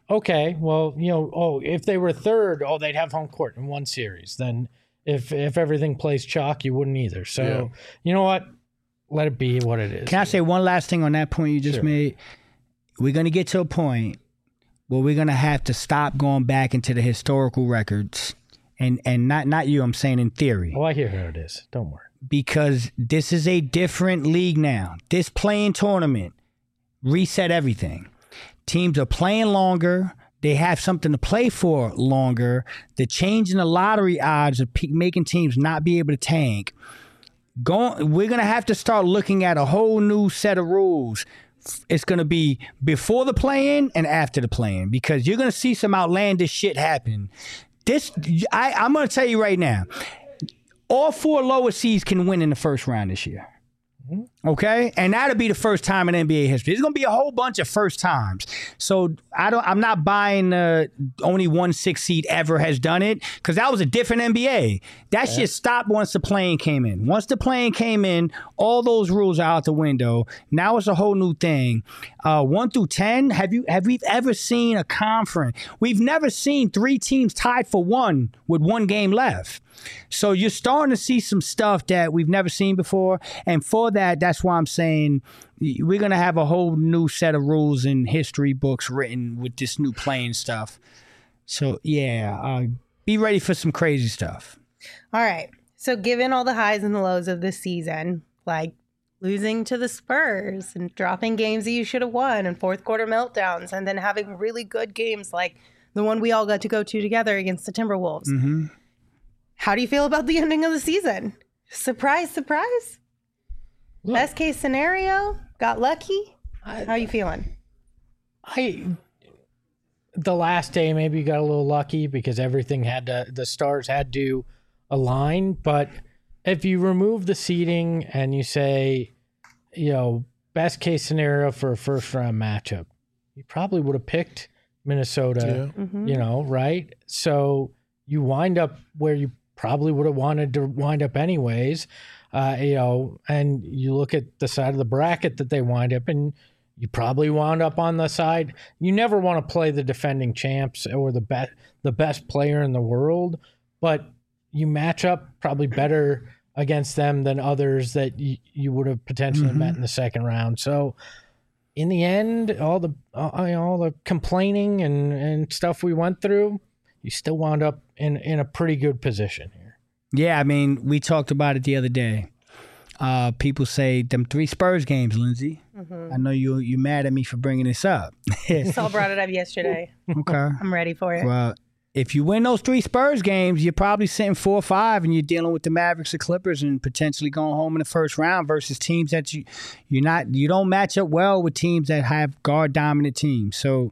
okay, well, if they were third, they'd have home court in one series. Then if everything plays chalk, you wouldn't either. So you know what? Let it be what it is.
Can I say one last thing on that point you just made? We're going to get to a point where we're going to have to stop going back into the historical records. And not you, I'm saying in theory.
Oh, I hear how it is. Don't worry.
Because this is a different league now. This playing tournament reset everything. Teams are playing longer. They have something to play for longer. The change in the lottery odds are making teams not be able to tank. We're going to have to start looking at a whole new set of rules. It's going to be before the play-in and after the play-in, because you're going to see some outlandish shit happen. I'm going to tell you right now, all 4 lower seeds can win in the first round this year. Okay, and that'll be the first time in NBA history. There's gonna be a whole bunch of first times. So I'm not buying only 1 6 seed ever has done it, because that was a different NBA. That shit stopped once the play-in came in. Once the play-in came in, all those rules are out the window. Now it's a whole new thing. 1 through 10. Have we ever seen a conference? We've never seen 3 teams tied for 1 with 1 game left. So you're starting to see some stuff that we've never seen before. And for that's why I'm saying we're going to have a whole new set of rules and history books written with this new playing stuff. So, be ready for some crazy stuff.
All right. So given all the highs and the lows of this season, like losing to the Spurs and dropping games that you should have won and fourth quarter meltdowns, and then having really good games like the one we all got to go to together against the Timberwolves. Mm-hmm. How do you feel about the ending of the season? Surprise, surprise. Look, best case scenario, got lucky. How are you feeling?
The last day maybe you got a little lucky because the stars had to align. But if you remove the seeding and you say, best case scenario for a first round matchup, you probably would have picked Minnesota, right? So you wind up where you probably would have wanted to wind up anyways, and you look at the side of the bracket that they wind up in, you probably wound up on the side. You never want to play the defending champs or the best player in the world, but you match up probably better against them than others that you would have potentially met in the second round. So in the end, all the complaining and stuff we went through, you still wound up in a pretty good position here.
Yeah, I mean, we talked about it the other day. People say them 3 Spurs games, Lindsay. Mm-hmm. I know you mad at me for bringing this up.
Saul brought it up yesterday.
Okay.
I'm ready for it.
Well, if you win those 3 Spurs games, you're probably sitting 4-5, and you're dealing with the Mavericks or Clippers and potentially going home in the first round versus teams that you don't match up well with teams that have guard dominant teams. So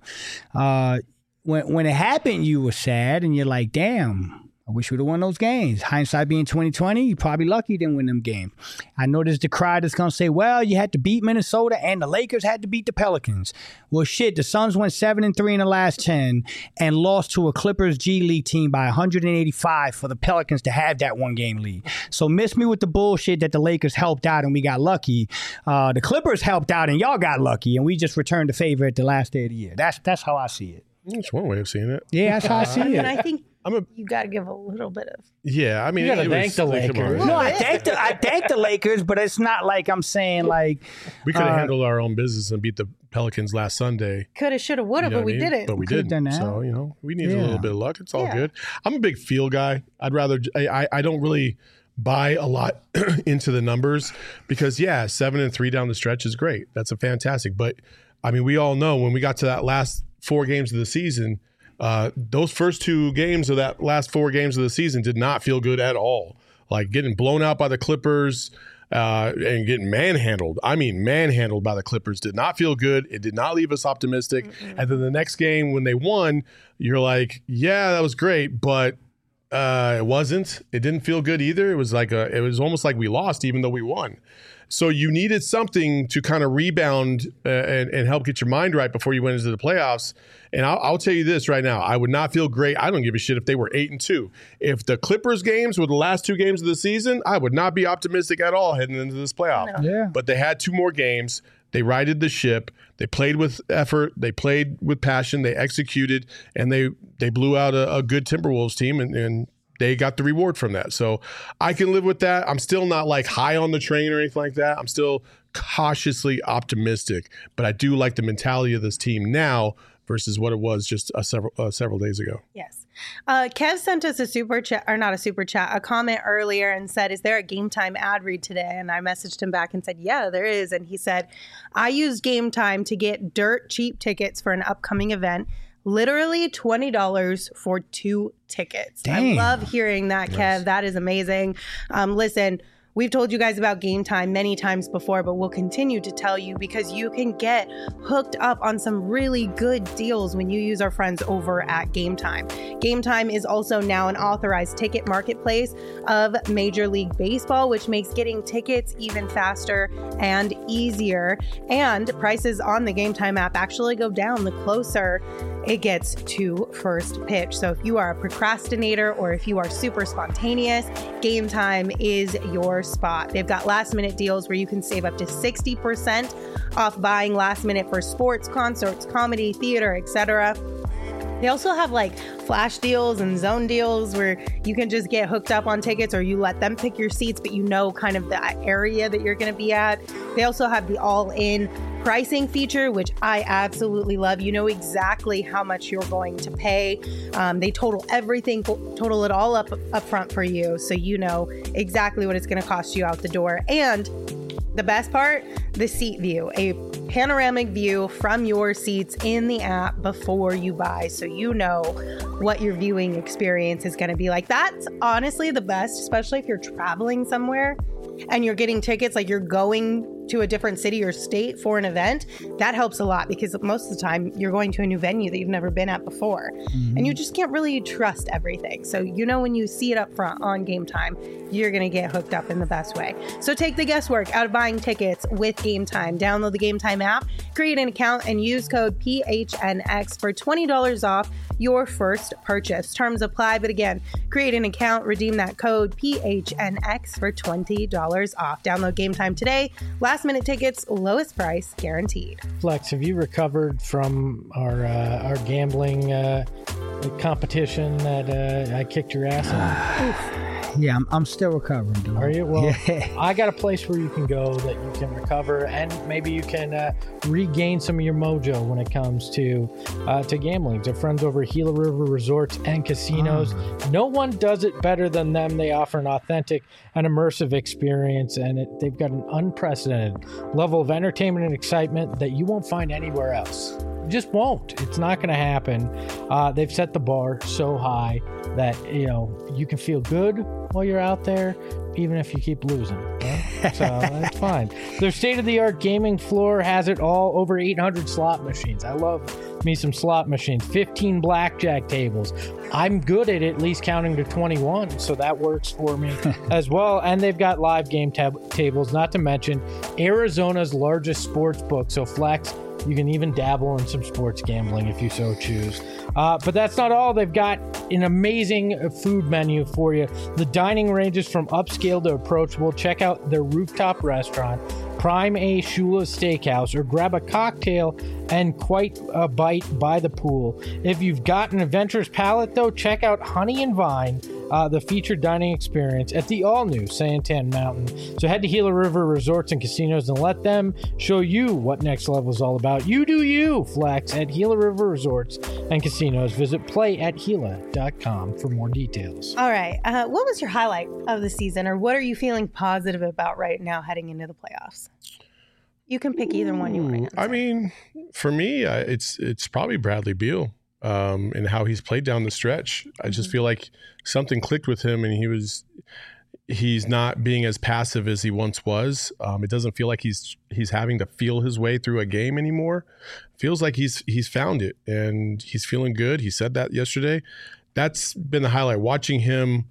when it happened, you were sad and you're like, damn, I wish we'd have won those games. Hindsight being 2020, you're probably lucky you didn't win them games. I know there's the cry that's going to say, well, you had to beat Minnesota and the Lakers had to beat the Pelicans. Well, shit, the Suns went 7-3 in the last 10 and lost to a Clippers G League team by 185 for the Pelicans to have that 1-game lead. So miss me with the bullshit that the Lakers helped out and we got lucky. The Clippers helped out and y'all got lucky, and we just returned the favor at the last day of the year. That's how I see it.
That's one way of seeing it.
Yeah, that's how I see it.
And I think you got to give a little bit of.
Yeah, I mean,
you got to thank the Lakers.
No, I thank the Lakers, but it's not like I'm saying like
we could have handled our own business and beat the Pelicans last Sunday.
Coulda, shoulda, woulda, but we didn't.
But we didn't. So we need a little bit of luck. It's all good. I'm a big feel guy. I'd rather. I don't really buy a lot into the numbers because 7-3 down the stretch is great. That's a fantastic. But I mean, we all know when we got to that last 4 games of the season, those first 2 games of that last 4 games of the season did not feel good at all. Like getting blown out by the Clippers and getting manhandled. I mean, manhandled by the Clippers did not feel good. It did not leave us optimistic. Mm-mm. And then the next game when they won, you're like, yeah, that was great, but it wasn't. It didn't feel good either. It was almost like we lost even though we won. So you needed something to kind of rebound and help get your mind right before you went into the playoffs. And I'll tell you this right now. I would not feel great. I don't give a shit if they were 8-2. If the Clippers games were the last 2 games of the season, I would not be optimistic at all heading into this playoff.
No.
Yeah.
But they had 2 more games. They righted the ship. They played with effort. They played with passion. They executed, and they blew out a good Timberwolves team, and they got the reward from that. So I can live with that. I'm still not like high on the train or anything like that. I'm still cautiously optimistic, but I do like the mentality of this team now versus what it was just several days ago.
Yes. Kev sent us a super chat, or not a super chat, a comment earlier and said, is there a Game Time ad read today? And I messaged him back and said, yeah, there is. And he said, I used Game Time to get dirt cheap tickets for an upcoming event. Literally $20 for 2 tickets.
Dang.
I love hearing that, Kev. Nice. That is amazing. Listen, we've told you guys about Game Time many times before, but we'll continue to tell you because you can get hooked up on some really good deals when you use our friends over at Game Time. Game Time is also now an authorized ticket marketplace of Major League Baseball, which makes getting tickets even faster and easier. And prices on the Game Time app actually go down the closer it gets to first pitch. So if you are a procrastinator or if you are super spontaneous, Game Time is your spot. They've got last minute deals where you can save up to 60% off buying last minute for sports, concerts, comedy, theater, etc. They also have like flash deals and zone deals where you can just get hooked up on tickets, or you let them pick your seats, but you know kind of the area that you're going to be at. They also have the all-in pricing feature, which I absolutely love. You know exactly how much you're going to pay. They total it all up front for you, so you know exactly what it's going to cost you out the door. And the best part, the seat view, a panoramic view from your seats in the app before you buy, so you know what your viewing experience is going to be like. That's honestly the best, especially if you're traveling somewhere and you're getting tickets, like you're going to a different city or state for an event. That helps a lot because most of the time you're going to a new venue that you've never been at before. Mm-hmm. And you just can't really trust everything. So you know when you see it up front on Game Time, you're going to get hooked up in the best way. So take the guesswork out of buying tickets with Game Time. Download the Game Time app, create an account, and use code PHNX for $20 off your first purchase. Terms apply, but again, create an account, redeem that code PHNX for $20 off. Download Game Time today. Last minute tickets, lowest price guaranteed.
Flex, have you recovered from our gambling competition that I kicked your ass in?
Yeah, I'm still recovering, dude.
Are you? Well, yeah. I got a place where you can go that you can recover, and maybe you can regain some of your mojo when it comes to gambling. They're friends over at Gila River Resorts and Casinos. No one does it better than them. They offer an authentic and immersive experience, and they've got an unprecedented level of entertainment and excitement that you won't find anywhere else. You just won't. It's not going to happen. They've set the bar so high that you can feel good while you're out there, even if you keep losing. Right? So that's fine. Their state-of-the-art gaming floor has it all. Over 800 slot machines. I love me some slot machines. 15 blackjack tables. I'm good at least counting to 21, so that works for me as well. And they've got live game tables, not to mention Arizona's largest sports book. So Flex, you can even dabble in some sports gambling if you so choose. But that's not all. They've got an amazing food menu for you. The dining ranges from upscale to approachable. Check out their rooftop restaurant, Prime A Shula's Steakhouse, or grab a cocktail and quite a bite by the pool. If you've got an adventurous palate, though, check out Honey and Vine, the featured dining experience at the all-new Santan Mountain. So head to Gila River Resorts and Casinos and let them show you what next level is all about. You do you, Flex, at Gila River Resorts and Casinos. Visit playatgila.com for more details.
All right. What was your highlight of the season, or what are you feeling positive about right now heading into the playoffs? You can pick either one you want.
I mean, for me, it's probably Bradley Beal and how he's played down the stretch. I just feel like something clicked with him, and he's not being as passive as he once was. It doesn't feel like he's having to feel his way through a game anymore. Feels like he's found it, and he's feeling good. He said that yesterday. That's been the highlight. Watching him,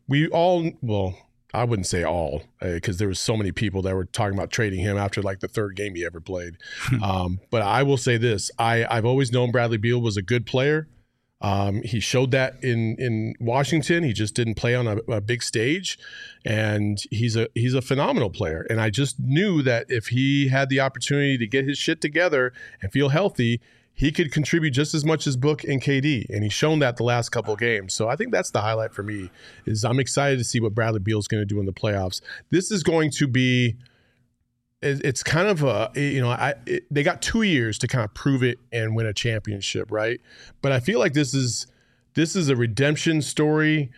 I wouldn't say all, because there was so many people that were talking about trading him after like the third game he ever played. But I will say this: I've always known Bradley Beal was a good player. He showed that in Washington. He just didn't play on a big stage, and he's a phenomenal player. And I just knew that if he had the opportunity to get his shit together and feel healthy, he could contribute just as much as Book and KD, and he's shown that the last couple of games. So I think that's the highlight for me. Is I'm excited to see what Bradley Beal is going to do in the playoffs. This is going to be. It's kind of they got 2 years to kind of prove it and win a championship, right? But I feel like this is a redemption story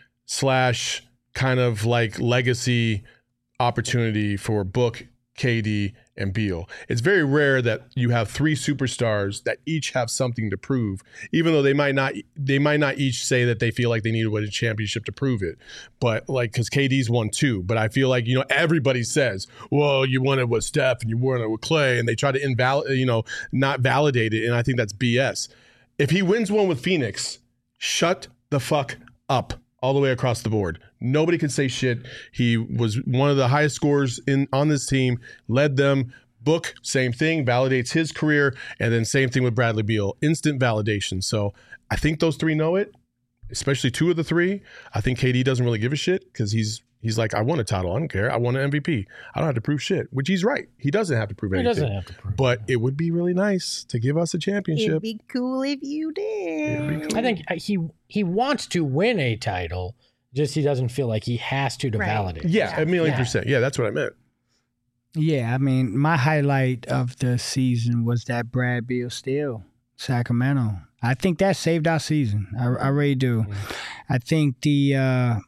/ kind of like legacy opportunity for Book, KD, and Beal. It's very rare that you have 3 superstars that each have something to prove, even though they might not each say that they feel like they need to win a championship to prove it. But like, because KD's won 2, but I feel like, everybody says, well, you won it with Steph and you won it with Clay, and they try to not validate it. And I think that's BS. If he wins one with Phoenix, shut the fuck up all the way across the board. Nobody can say shit. He was one of the highest scorers on this team, led them. Book, same thing, validates his career. And then same thing with Bradley Beal, instant validation. So I think those 3 know it, especially 2 of the 3. I think KD doesn't really give a shit because he's like, I won a title. I don't care. I won an MVP. I don't have to prove shit, which he's right. He doesn't have to prove anything.
He doesn't have to prove
But it would be really nice to give us a championship.
It'd be cool if you did.
I think he wants to win a title, just he doesn't feel like he has to validate.
Yeah, 1,000,000%. Yeah, that's what I meant.
Yeah, I mean, my highlight of the season was that Brad Beal steal, Sacramento. I think that saved our season. I really do. I think the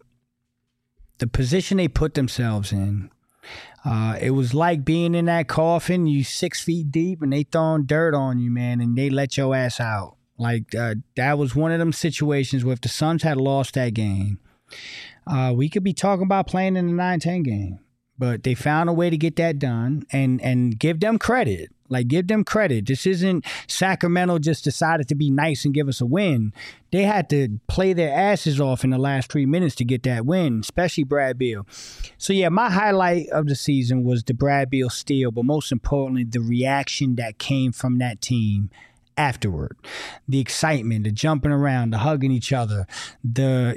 position they put themselves in, it was like being in that coffin, you 6 feet deep, and they throwing dirt on you, man, and they let your ass out. Like, that was one of them situations where if the Suns had lost that game, we could be talking about playing in the 9-10 game. But they found a way to get that done and give them credit. Like, give them credit. This isn't Sacramento just decided to be nice and give us a win. They had to play their asses off in the last 3 minutes to get that win, especially Brad Beal. So, yeah, my highlight of the season was the Brad Beal steal, but most importantly, the reaction that came from that team afterward. The excitement, the jumping around, the hugging each other, the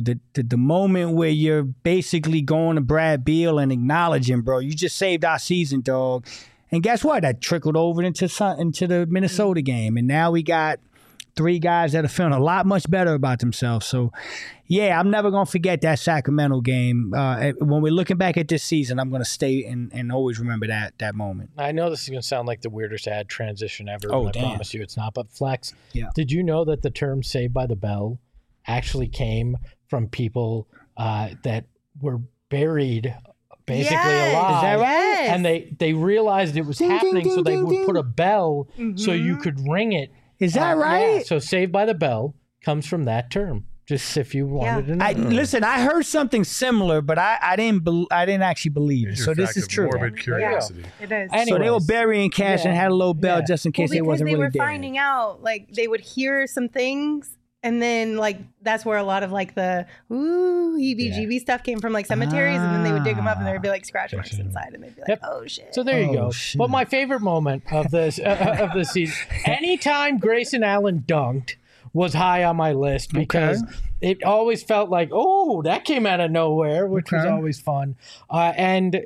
moment where you're basically going to Brad Beal and acknowledging, bro, you just saved our season, dog. And guess what? That trickled over into the Minnesota game. And now we got 3 guys that are feeling a lot much better about themselves. So, yeah, I'm never going to forget that Sacramento game. When we're looking back at this season, I'm going to stay and always remember that moment.
I know this is going to sound like the weirdest ad transition ever.
Oh,
I
damn.
promise you it's not. But Flex,
Yeah.
Did you know that the term Saved by the Bell actually came from people that were buried basically alive?
Is that right?
Yes.
And they realized it was
Ding,
happening,
ding,
so they
ding,
would
ding.
put a bell so you could ring it.
Is that right?
Yeah, so Saved by the Bell comes from that term. Just if you wanted to know.
Listen, I heard something similar, but I didn't actually believe it.
It's
So
your
this
fact
is
of
true.
morbid curiosity.
It is.
Anyways,
So they were burying cash and had a little bell
Yeah.
just in case they
because
wasn't
they
really
were
dead.
finding out, like, they would hear some things, and then, like, that's where a lot of, like, the heebie-jeebie stuff came from, like, cemeteries, and then they would dig them up, and there would be, like, scratch marks inside, and they'd be like, oh, shit.
So there you
Oh,
go.
shit.
But my favorite moment of this of the season, anytime Grayson Allen dunked, was high on my list because it always felt like, oh, that came out of nowhere, which was always fun. And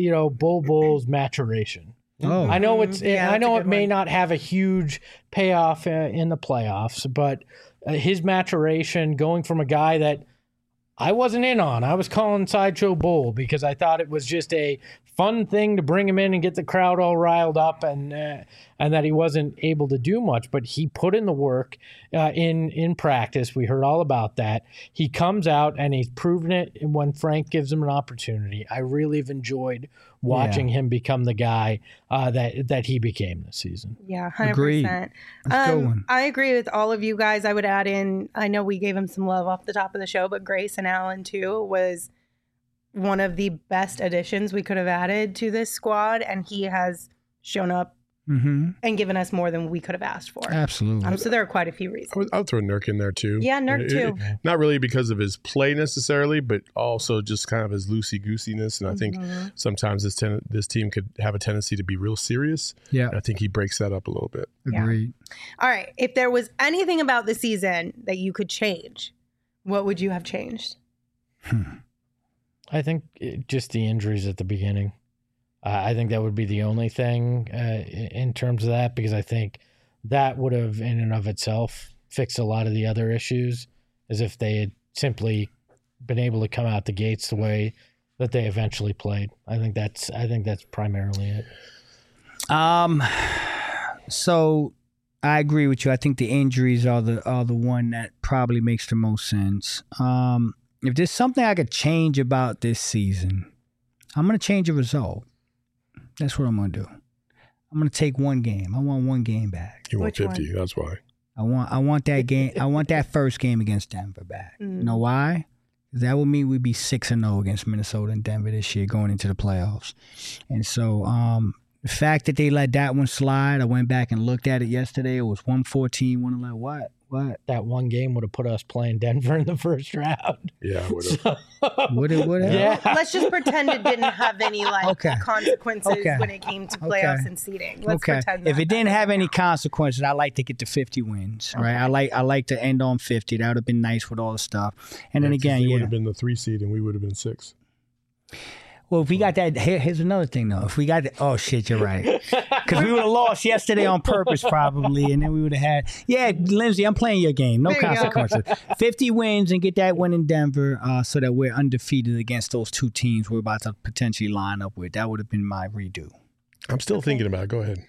Bull's maturation.
Oh.
I know
Yeah,
I know
that's a
it may
good one.
not have a huge payoff in the playoffs, but his maturation, going from a guy that I wasn't in on, I was calling Sideshow Bull because I thought it was just a fun thing to bring him in and get the crowd all riled up, and that he wasn't able to do much, but he put in the work in practice. We heard all about that. He comes out and he's proven it when Frank gives him an opportunity. I really have enjoyed watching him become the guy that he became this season.
Yeah, 100%.
Agreed. That's a good one.
I agree with all of you guys. I would add in, I know we gave him some love off the top of the show, but Grayson Allen, too, was one of the best additions we could have added to this squad, and he has shown up and given us more than we could have asked for.
Absolutely.
So there are quite a few reasons.
I would throw Nurk in there too.
Yeah, Nurk too.
Not really because of his play necessarily, but also just kind of his loosey-goosiness. And I think sometimes this team could have a tendency to be real serious.
Yeah.
And I think he breaks that up a little bit.
Agreed.
All right. If there was anything about the season that you could change, what would you have changed?
I think just the injuries at the beginning. I think that would be the only thing in terms of that, because I think that would have in and of itself fixed a lot of the other issues, as if they had simply been able to come out the gates the way that they eventually played. I think that's primarily it.
So I agree with you. I think the injuries are the one that probably makes the most sense. If there's something I could change about this season, I'm going to change a result. That's what I'm going to do. I'm going to take one game. I want one game back.
You want
Which
50.
one?
That's why.
I want that game. I want that first game against Denver back. You know why? That would mean we'd be 6-0 against Minnesota and Denver this year going into the playoffs. And so the fact that they let that one slide, I went back and looked at it yesterday. It was 114, 111. What?
That one game would have put us playing Denver in the first round.
Yeah, it would have.
Would it?
Yeah.
Well, let's just pretend it didn't have any consequences when it came to playoffs and seeding. Let's pretend that.
If it didn't have any consequences, I like to get to 50 wins. Right? I like to end on 50. That would have been nice with all the stuff. And then again,
they would have been the 3 seed and we would have been 6.
Well, if we got that, here's another thing, though. If we got that, oh, shit, you're right. Because we would have lost yesterday on purpose, probably, and then we would have had, Lindsay, I'm playing your game. No consequences. 50 wins and get that win in Denver so that we're undefeated against those two teams we're about to potentially line up with. That would have been my redo.
I'm still thinking about it. Go ahead.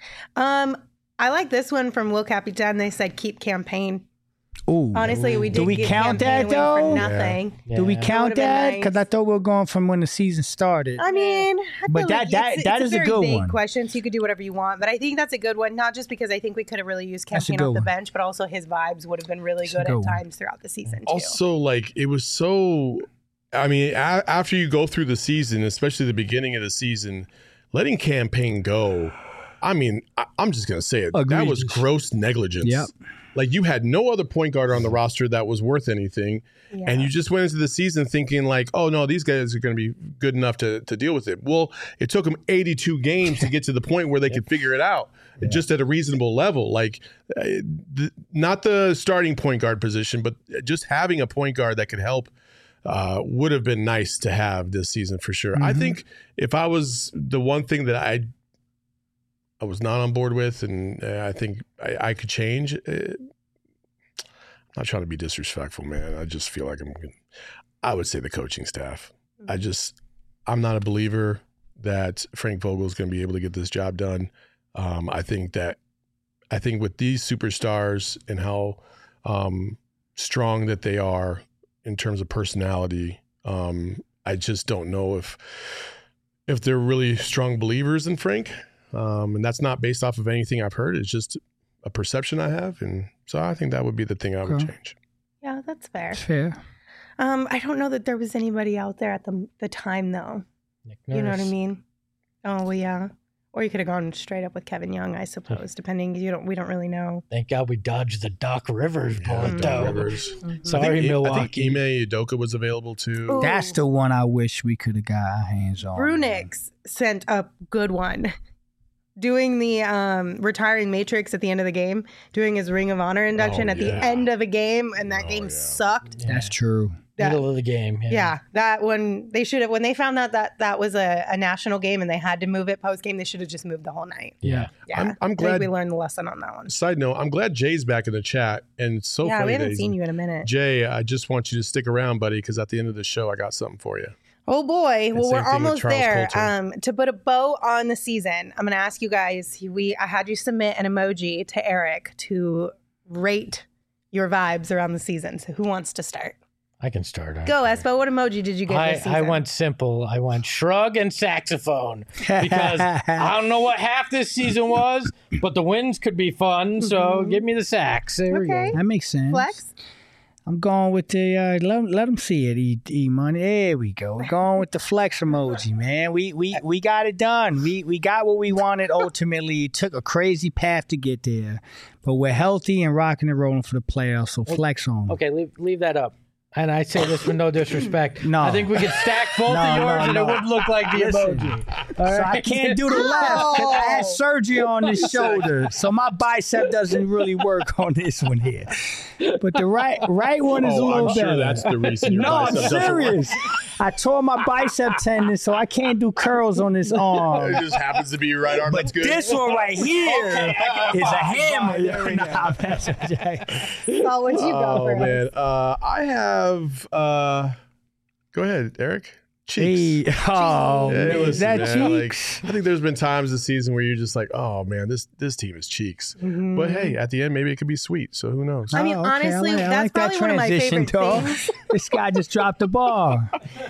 I like this one from Will Capitan. They said keep campaign.
Ooh.
Honestly, we did.
Do we count that though?
For nothing.
Yeah.
Do we count that? Because I thought we were going from when the season started.
I mean,
But that is a good
big
one.
question, so you could do whatever you want. But I think that's a good one, not just because I think we could have really used campaign off the bench, but also his vibes would have been really good at times throughout the season too.
Also, like it was so. I mean, after you go through the season, especially the beginning of the season, letting campaign go. I mean, I'm just gonna say it.
Agreed.
That was gross negligence.
Yep.
Like you had no other point guard on the roster that was worth anything. Yeah. And you just went into the season thinking like, oh no, these guys are going to be good enough to deal with it. Well, it took them 82 games to get to the point where they could figure it out just at a reasonable level. Like not the starting point guard position, but just having a point guard that could help would have been nice to have this season for sure. I think if I was the one thing that I was not on board with, and I think I could change. I'm not trying to be disrespectful, man. I just feel like I would say the coaching staff. I'm not a believer that Frank Vogel is going to be able to get this job done. I think with these superstars and how strong that they are in terms of personality, I just don't know if they're really strong believers in Frank. And that's not based off of anything I've heard. It's just a perception I have. And so I think that would be the thing I would change.
Yeah, that's fair.
Fair.
I don't know that there was anybody out there at the time, though.
Nick Nurse.
You know what I mean? Oh, well, yeah. Or you could have gone straight up with Kevin Young, I suppose, depending. We don't really know.
Thank God we dodged the Doc Rivers bullet,
Doc
though.
Rivers.
Sorry, Milwaukee.
I think Ime Udoka was available too.
Ooh.
That's the one I wish we could have got our hands on.
Brunix sent a good one. Doing the retiring Matrix at the end of the game, doing his Ring of Honor induction at the end of a game, and that game sucked.
Yeah.
That's true.
Middle of the game.
Yeah, that one, they should have, when they found out that was a national game and they had to move it post game, they should have just moved the whole night.
Yeah.
Yeah.
I'm glad
I think we learned the lesson on that one.
Side note, I'm glad Jay's back in the chat. And it's so funny.
We haven't seen you in a minute.
Jay, I just want you to stick around, buddy, because at the end of the show, I got something for you.
Oh boy. Well, we're almost there.
Coulter.
To put a bow on the season, I'm going to ask you guys, I had you submit an emoji to Eric to rate your vibes around the season. So who wants to start?
I can start.
Go, Espo. What emoji did you get this season?
I went simple. I went shrug and saxophone because I don't know what half this season was, but the wins could be fun. So give me the sax. There we go.
That makes sense.
Flex?
I'm going with the let them see it. E money. There we go. We're going with the flex emoji, man. We got it done. We got what we wanted. Ultimately, it took a crazy path to get there, but we're healthy and rocking and rolling for the playoffs. So flex on.
Okay, leave that up. And I say this with no disrespect.
No.
I think we could stack both of yours and it would look like the emoji. All
So
right?
I can't do the left because I had surgery on this shoulder, so my bicep doesn't really work on this one here. But the right one is a little
I'm sure
better.
that's the reason your
No, I'm
bicep doesn't work.
serious. I tore my bicep tendon, so I can't do curls on this arm.
It just happens to be your right arm.
But
That's good.
this one right here is a hammer. Nah,
Saul, what'd you go for?
Oh man, I have. Go ahead, Eric. Cheeks.
Hey, oh,
Hey,
man, is
listen,
that
man,
cheeks?
I think there's been times this season where you're just like, oh man, this team is cheeks. But hey, at the end, maybe it could be sweet. So who knows?
I mean,
Oh, okay.
honestly,
I
that's
like that
probably one of my
transition,
favorite
dog.
things.
This guy just dropped the ball.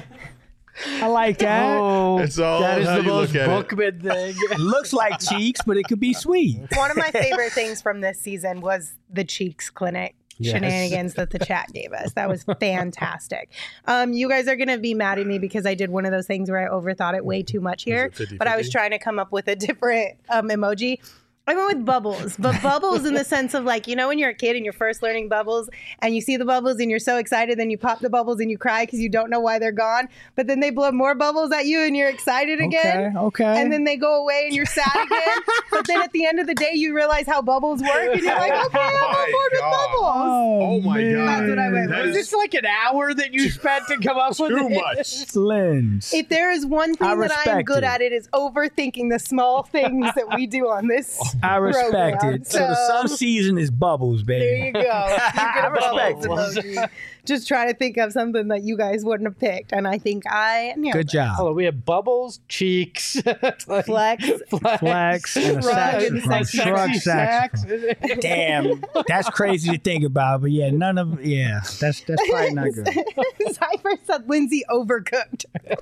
I like that.
Oh,
It's all
that is
how
the
you
most
look at it.
Bookman thing.
It looks like cheeks, but it could be sweet.
One of my favorite things from this season was the Cheeks Clinic shenanigans that the chat gave us. That was fantastic. You guys are going to be mad at me because I did one of those things where I overthought it way too much here,
Was it 50-50?
but I was trying to come up with a different emoji. I went with bubbles, but bubbles in the sense of like, you know, when you're a kid and you're first learning bubbles and you see the bubbles and you're so excited, then you pop the bubbles and you cry because you don't know why they're gone. But then they blow more bubbles at you and you're excited again.
Okay.
And then they go away and you're sad again. But then at the end of the day, you realize how bubbles work and you're like, okay, I'm on board with
God.
bubbles.
Oh my
man.
god,
That's what I went
That
with.
Was
is
this like an hour that you spent to come up with
too
it?
much.
Lens.
If there is one
I
thing that I am
respect
good
it.
at, it is overthinking the small things that we do on this
I respect
program.
it. So the sun season is bubbles, baby.
There you go. You get a
respect
bubbles emoji. Just try to think of something that you guys wouldn't have picked, and I think I nailed
Good
it.
job.
Hold on, we have bubbles, cheeks,
Flex.
Flex and a
Shrug and
saxophone.
sexy
Shrug saxophone. Damn, that's crazy to think about. But yeah, that's probably not good.
Cypher said Lindsay overcooked.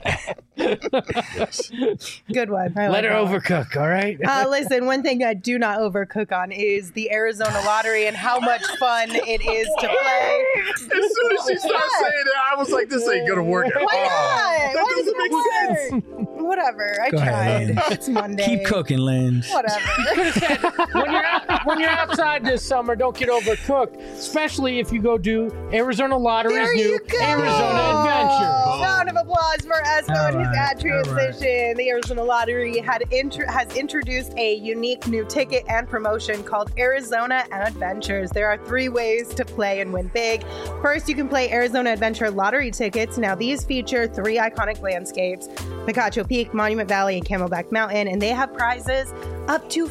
Good one. I
Let
like
her
that one.
overcook, all right?
Listen, one thing I do not overcook on is the Arizona lottery and how much fun it is to play.
As soon as she started saying it, I was like, this ain't gonna work.
Why not?
That
Why
doesn't make
doesn't
sense.
it work? Whatever. I
Go ahead,
tried.
Lynn.
It's Monday.
Keep cooking, Lens.
Whatever.
when you're outside this summer, don't get overcooked, especially if you go do Arizona Lottery's
There
new
you go.
Arizona Adventure.
Round of applause for Espo and his
All
ad
right, all
transition. The Arizona Lottery has introduced a unique new ticket and promotion called Arizona Adventures. There are 3 ways to play and win big. First, you can play Arizona Adventure lottery tickets. Now, these feature 3 iconic landscapes, Picacho Peak, Monument Valley, and Camelback Mountain, and they have prizes up to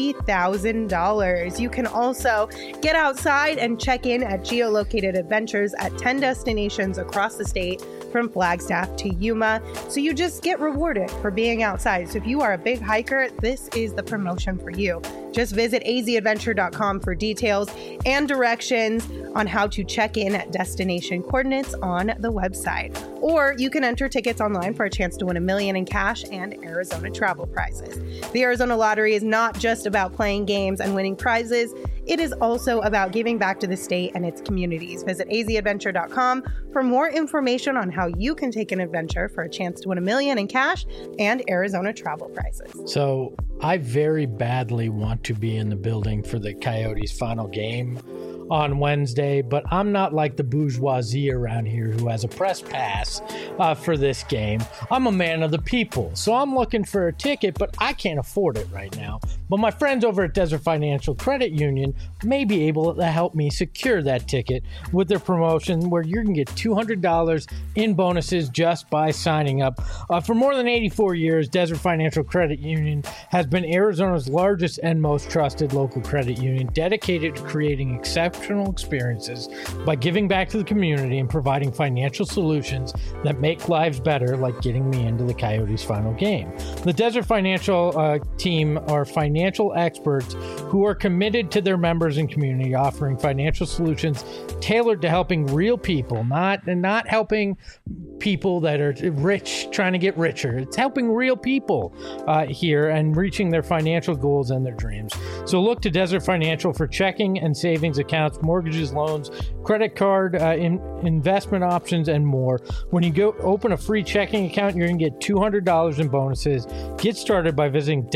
$50,000. You can also get outside and check in at geolocated adventures at 10 destinations across the state from Flagstaff to Yuma. So you just get rewarded for being outside. So if you are a big hiker, this is the promotion for you. Just visit azadventure.com for details and directions on how to check in at destination coordinates on the website. Or you can enter tickets online for a chance to win $1 million in cash and Arizona travel prizes. The Arizona Lottery is not just about playing games and winning prizes. It is also about giving back to the state and its communities. Visit azadventure.com for more information on how you can take an adventure for a chance to win $1 million in cash and Arizona travel prizes.
So I very badly want to be in the building for the Coyotes' final game on Wednesday, but I'm not like the bourgeoisie around here who has a press pass for this game. I'm a man of the people, so I'm looking for a ticket, but I can't afford it right now. But my friends over at Desert Financial Credit Union may be able to help me secure that ticket with their promotion where you can get $200 in bonuses just by signing up. For more than 84 years, Desert Financial Credit Union has been Arizona's largest and most trusted local credit union, dedicated to creating exceptional experiences by giving back to the community and providing financial solutions that make lives better, like getting me into the Coyotes' final game. The Desert Financial team are financial experts who are committed to their members and community, offering financial solutions tailored to helping real people, not helping people that are rich trying to get richer. It's helping real people here and reaching their financial goals and their dreams. So look to Desert Financial for checking and savings accounts, mortgages, loans, credit card, investment options, and more. When you go open a free checking account, you're going to get $200 in bonuses. Get started by visiting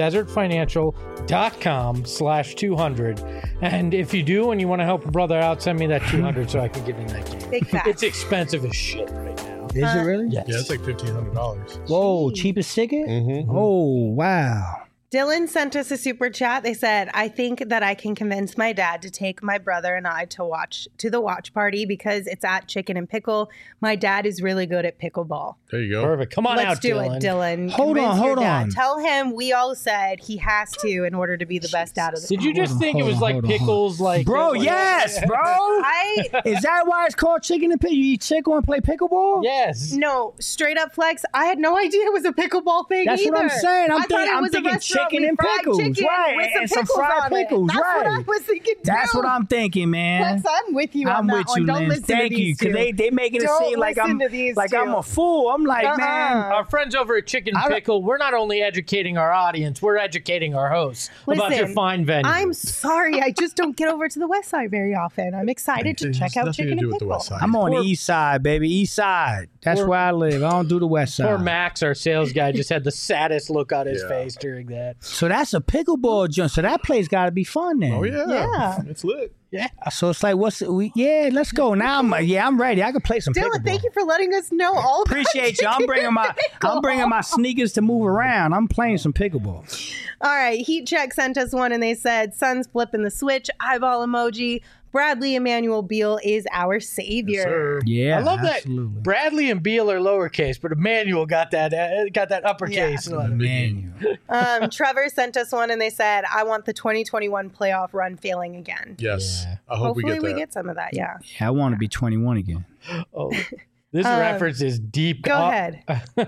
desertfinancial.com/200. And if you do and you want to help a brother out, send me that 200 so I can get in that game.
Big facts.
It's expensive as shit right now.
Is it really?
Yes.
Yeah, it's like $1,500.
Whoa, cheapest ticket?
Mm-hmm.
Oh, wow.
Dylan sent us a super chat. They said, I think that I can convince my dad to take my brother and I to the watch party because it's at Chicken and Pickle. My dad is really good at pickleball.
There you go.
Perfect. Come on
Let's
out,
do
Dylan.
it, Dylan.
Hold
Convince your
on.
dad. Tell him we all said he has to in order to be the best dad of the
Did you just think it was
hold
like
on.
pickles? Like
Bro, yes, bro. Is that why it's called Chicken and Pickle? You eat chicken and play pickleball?
Yes.
No, straight up flex. I had no idea it was a pickleball thing.
That's
either.
what I'm saying.
I thought it
I'm
was a
thinking
restaurant
chicken
with
and
fried
pickles,
chicken
right?
with
And some
pickles
fried
on it.
pickles,
That's what I
right?
was thinking.
That's
too.
what I'm thinking, man.
Flex, I'm with you on
I'm
that
with
one.
you,
Don't
Lynn.
listen
Thank
to
you,
these
because
two.
they making it
Don't
seem like
listen to these
I'm
two.
a fool. I'm like, man.
Our friends over at Chicken Pickle, we're not only educating our audience, we're educating our hosts about your
Listen,
fine venue.
I'm sorry. I just don't get over to the West Side very often. I'm excited to check out
nothing to
Chicken
do
and
with the
Pickle.
West Side.
I'm on the east side, baby. East side. That's where I live. I don't do the west side.
Poor Max, our sales guy, just had the saddest look on his
Yeah.
face during that.
So that's a pickleball joint. So that place got to be fun then.
Oh, yeah.
Yeah.
It's lit.
Yeah.
So it's like, let's go. Now I'm ready. I can play some
Dylan,
pickleball.
thank you for letting us know all about
Appreciate you. I'm bringing my sneakers to move around. I'm playing some pickleball.
All right, Heat Check sent us one and they said, Sun's flipping the switch, eyeball emoji. Bradley Emmanuel Beal is our savior.
Yes, sir.
Yeah,
I love
absolutely.
that Bradley and Beal are lowercase, but Emmanuel got that uppercase.
Yeah.
letter.
Manual.
Trevor sent us one and they said, I want the 2021 playoff run failing again.
Yes.
Yeah.
I hope
Hopefully
we get that.
some of that, yeah.
Yeah, I want to be 21 again.
Oh, this reference is deep.
Go ahead.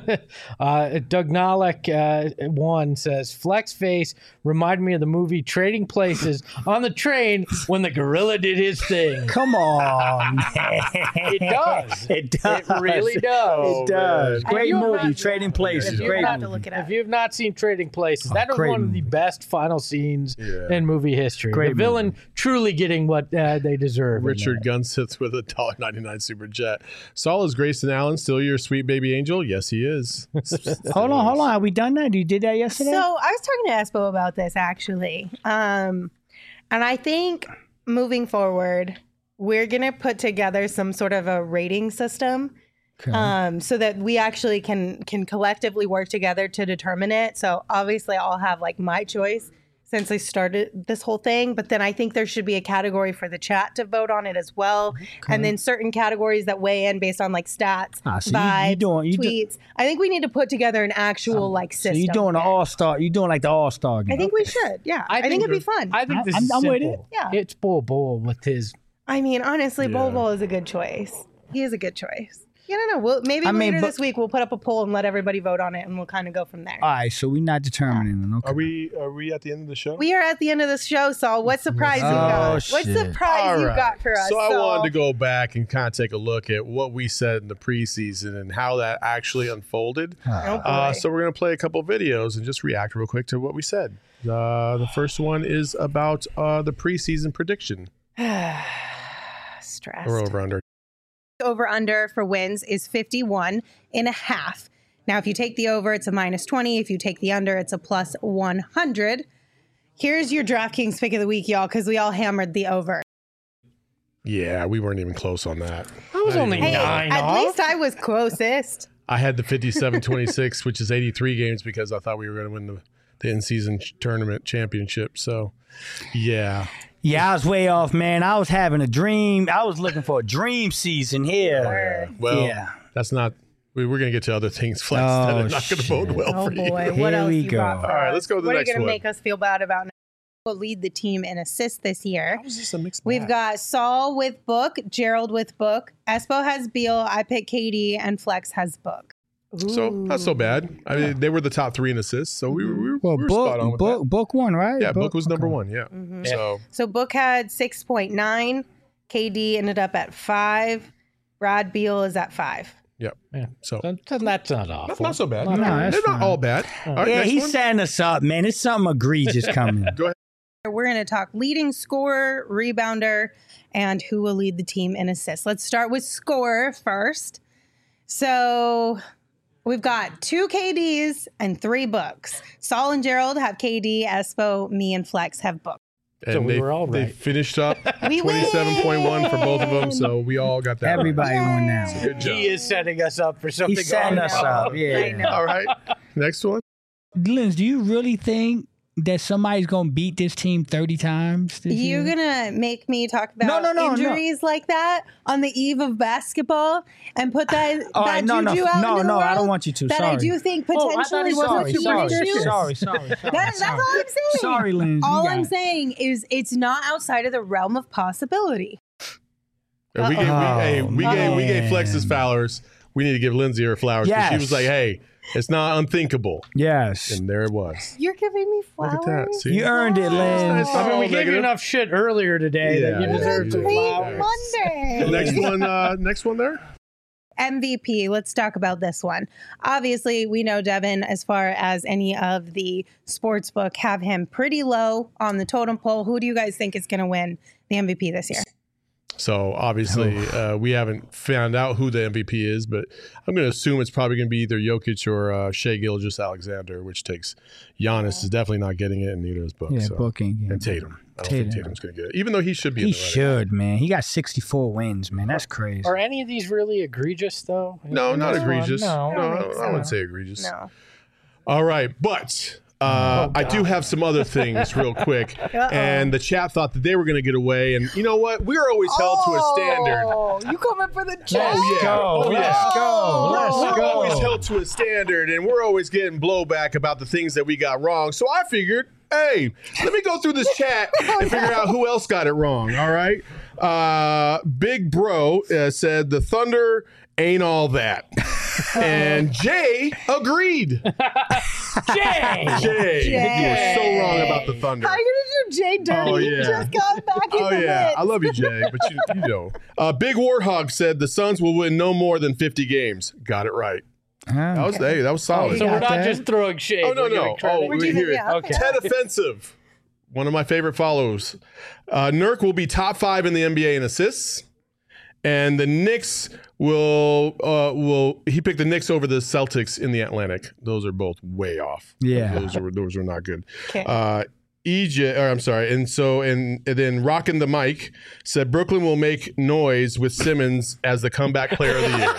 Doug Nolek one says, Flex face reminded me of the movie Trading Places on the train when the gorilla did his thing.
Come on, man.
It does.
It does.
It really does.
It does.
man.
Great
you have
movie,
not-
Trading Places.
If you
Great
have
to
movie.
look it up.
If you have not seen Trading Places, that is
great
one of the
movie.
best final scenes
Yeah.
in movie history.
Great
the villain truly getting what they deserve. in
Richard
that.
Gunn sits with a $1.99 super jet. Saul, is Grayson Allen still your sweet baby angel? Yes, he is.
Hold on. Have we done that? You did that yesterday?
So I was talking to Espo about this actually. And I think moving forward, we're going to put together some sort of a rating system
Okay.
so that we actually can collectively work together to determine it. So obviously I'll have like my choice since I started this whole thing, but then I think there should be a category for the chat to vote on it as well. And then certain categories that weigh in based on like stats,
So you
vibes,
doing
tweets. I think we need to put together an actual like
So
system.
you're doing the all-star. You're doing like the all-star game.
I think we should. Yeah. I think it'd be fun.
I think this
I'm-
is
I'm with
simple.
it.
Yeah.
It's Bull with his.
I mean, honestly,
Yeah.
Bol Bol is a good choice. He is a good choice. Yeah, I don't know. Maybe later
but-
this week we'll put up a poll and let everybody vote on it, and we'll kind of go from there.
All right, so we're not determining it. Okay.
Are we at the end of the show?
We are at the end of the show, Saul. What surprise you got? What
shit.
surprise
All
you
right.
got for us?
So I
Saul?
wanted to go back and kind of take a look at what we said in the preseason and how that actually unfolded.
Oh, boy.
So we're going to play a couple videos and just react real quick to what we said. The first one is about the preseason prediction.
Stressed.
Or over under.
Over under for wins is 51.5. Now, if you take the over, it's a -20. If you take the under, it's a +100. Here's your DraftKings pick of the week, y'all, because we all hammered the over.
Yeah, we weren't even close on that.
I was only
Hey,
9
at
off.
least I was closest.
I had the 57-26, which is 83 games because I thought we were going to win the in-season tournament championship. So, yeah.
Yeah, I was way off, man. I was having a dream. I was looking for a dream season here.
Well,
Yeah.
that's not. We're going to get to other things, Flex, that are not going to bode well
Oh
for you.
boy, what
Here
else
we
you
go.
got for
All right,
us?
let's go to the
what
next
are you
one.
gonna make us feel bad about now? Will lead the team in assists this year.
How is this a mixed
We've
bag?
got Saul with Book, Gerald with Book, Espo has Beal, I pick KD, and Flex has Book.
So not so bad. I mean, they were the top 3 in assists, so we were
Well,
spot on with that.
book one, right?
Yeah, Book was number
okay.
1. Yeah.
Mm-hmm.
So
So Book had 6.9, KD ended up at 5, Brad Beal is at 5.
Yep.
Yeah.
So
that's not awful.
not so bad.
Not
No,
bad.
they're not all bad. All right,
Yeah,
next
he's
one.
setting us up, man. It's something egregious coming.
Go ahead.
We're going to talk leading scorer, rebounder, and who will lead the team in assists. Let's start with scorer first. So we've got 2 KDs and 3 books. Saul and Gerald have KD, Espo, me, and Flex have books.
And
So we
they,
were all
they
right.
finished up
We
27.1 for both of them, so we all got that.
Everybody
right.
won now.
Good job.
He is setting us up for something.
He's setting us up.
I
Yeah.
know.
All right. Next one.
Linz, do you really think that somebody's going to beat this team 30 times this
You're
year?
going to make me talk about
No.
injuries like that on the eve of basketball and put that,
All
that
right, no,
juju out into the
I
world
don't want you to.
that
Sorry.
I do think
Oh, I thought
potentially
he
was
wasn't
a
superstitious.
Sorry.
That's all I'm saying.
Sorry, Linz.
All
You
I'm
got it.
saying is it's not outside of the realm of possibility.
And we gave Flex his flowers. We need to give Lindsay her flowers because she
Yes.
was like, "Hey, it's not unthinkable,"
Yes.
and there it was.
You're giving me flowers.
Look at that. See?
You earned it, Linz.
Nice.
I mean, we
Oh,
gave you
negative.
enough shit earlier today that you
Yeah,
deserve
yeah,
some
yeah.
flowers.
Monday.
Next one there.
MVP. Let's talk about this one. Obviously, we know Devin, as far as any of the sports book, have him pretty low on the totem pole. Who do you guys think is going to win the MVP this year?
So obviously, we haven't found out who the MVP is, but I'm going to assume it's probably going to be either Jokic or Shea Gilgeous-Alexander, which takes Giannis is definitely not getting it, and neither is Book.
Yeah,
so.
booking. Yeah.
And Tatum. I don't think
Tatum.
Tatum's going to get it, even though he should be.
He
in the running.
should, man. He got 64 wins, man. That's crazy.
Are any of these really egregious, though?
No, not
This one?
egregious.
No.
I wouldn't say egregious.
No.
All right, but I do have some other things real quick. And the chat thought that they were going to get away. And you know what? We're always held to a standard.
Oh, you coming for the chat?
Oh, yeah. Oh, yeah.
Let's go.
We're always held to a standard, and we're always getting blowback about the things that we got wrong. So I figured, hey, let me go through this chat and figure out who else got it wrong. All right. Big Bro said the Thunder ain't all that. And Jay agreed.
Jay!
Jay, you were so wrong about the Thunder.
How are you going to do Jay dirty?
Oh,
He
yeah.
just got back in
Oh,
the
yeah.
mix.
I love you, Jay, but you know. Big Warthog said the Suns will win no more than 50 games. Got it right.
Huh?
That was solid.
So we're
got
not
that.
just throwing shade.
Oh, no,
we're
no.
giving credit.
Oh,
We're
we
giving-
hear it.
yeah, okay.
Ted Offensive, one of my favorite follows. Nurk will be top 5 in the NBA in assists, and the Knicks will he picked the Knicks over the Celtics in the Atlantic. Those are both way off.
Yeah.
those are not good.
Okay.
And then Rockin' the Mic said Brooklyn will make noise with Simmons as the comeback player of the year.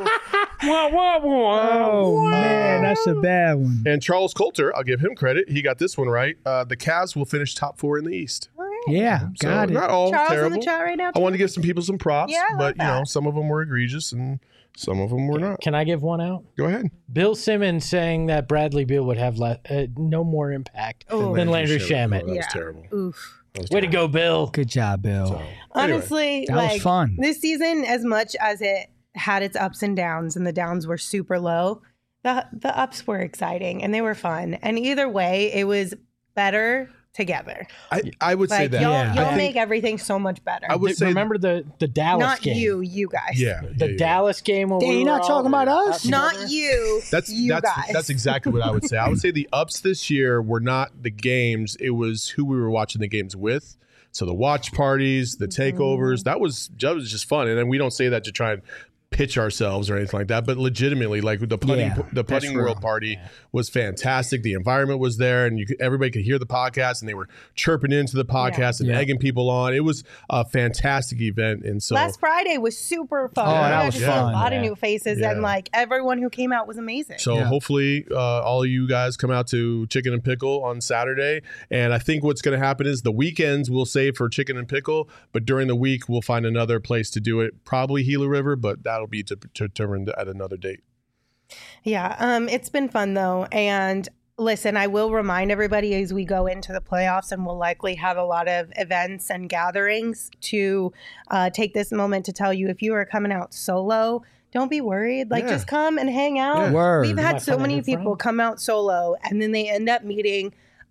Oh, man. That's a bad one.
And Charles Coulter, I'll give him credit. He got this one right. The Cavs will finish top 4 in the East.
All right.
Yeah,
So
got it.
not all
Charles
terrible.
in the chat right now.
I wanted to give some people some props,
Yeah, I love
but
that.
some of them were egregious and some of them were not.
Can I give one out?
Go ahead.
Bill Simmons saying that Bradley Beal would have no more impact than Landry
Oh,
Shamet.
that was
Yeah.
terrible.
Oof.
That was
Way to
terrible.
go, Bill.
Good job, Bill.
So, anyway.
Honestly,
That was
like
fun.
this season, as much as it had its ups and downs, and the downs were super low, the ups were exciting and they were fun. And either way, it was better together.
I would say
Like
that.
y'all,
Yeah.
I
y'all
think-
make everything so much better.
I would say
Remember the Dallas
Not
game?
you guys.
Yeah.
The
yeah.
Dallas game. When
Dang,
we
you're
were
not talking
all-
about us?
Not you.
That's
guys.
exactly what I would say. I would say the ups this year were not the games; it was who we were watching the games with. So the watch parties, the takeovers, that was just fun. And then we don't say that to try and pitch ourselves or anything like that, but legitimately, like the putting
Yeah,
the
that's
putting world
real.
party was fantastic. The environment was there, and everybody could hear the podcast, and they were chirping into the podcast and
Yeah.
egging people on. It was a fantastic event, and so
Last Friday was super fun.
Oh,
We
that
got
was
to see
fun.
a lot of
Yeah.
new faces,
Yeah.
and like everyone who came out was amazing.
So
Yeah.
hopefully all of you guys come out to Chicken and Pickle on Saturday. And I think what's going to happen is the weekends we'll save for Chicken and Pickle, but during the week we'll find another place to do it. Probably Gila River, but that'll be determined at another date.
Yeah, it's been fun though. And listen, I will remind everybody as we go into the playoffs, and we'll likely have a lot of events and gatherings to take this moment to tell you if you are coming out solo, don't be worried. Like,
Yeah.
just come and hang out.
Yeah.
Word.
We've
might
had so
find a
many
new
people
friend.
come out solo, and then they end up meeting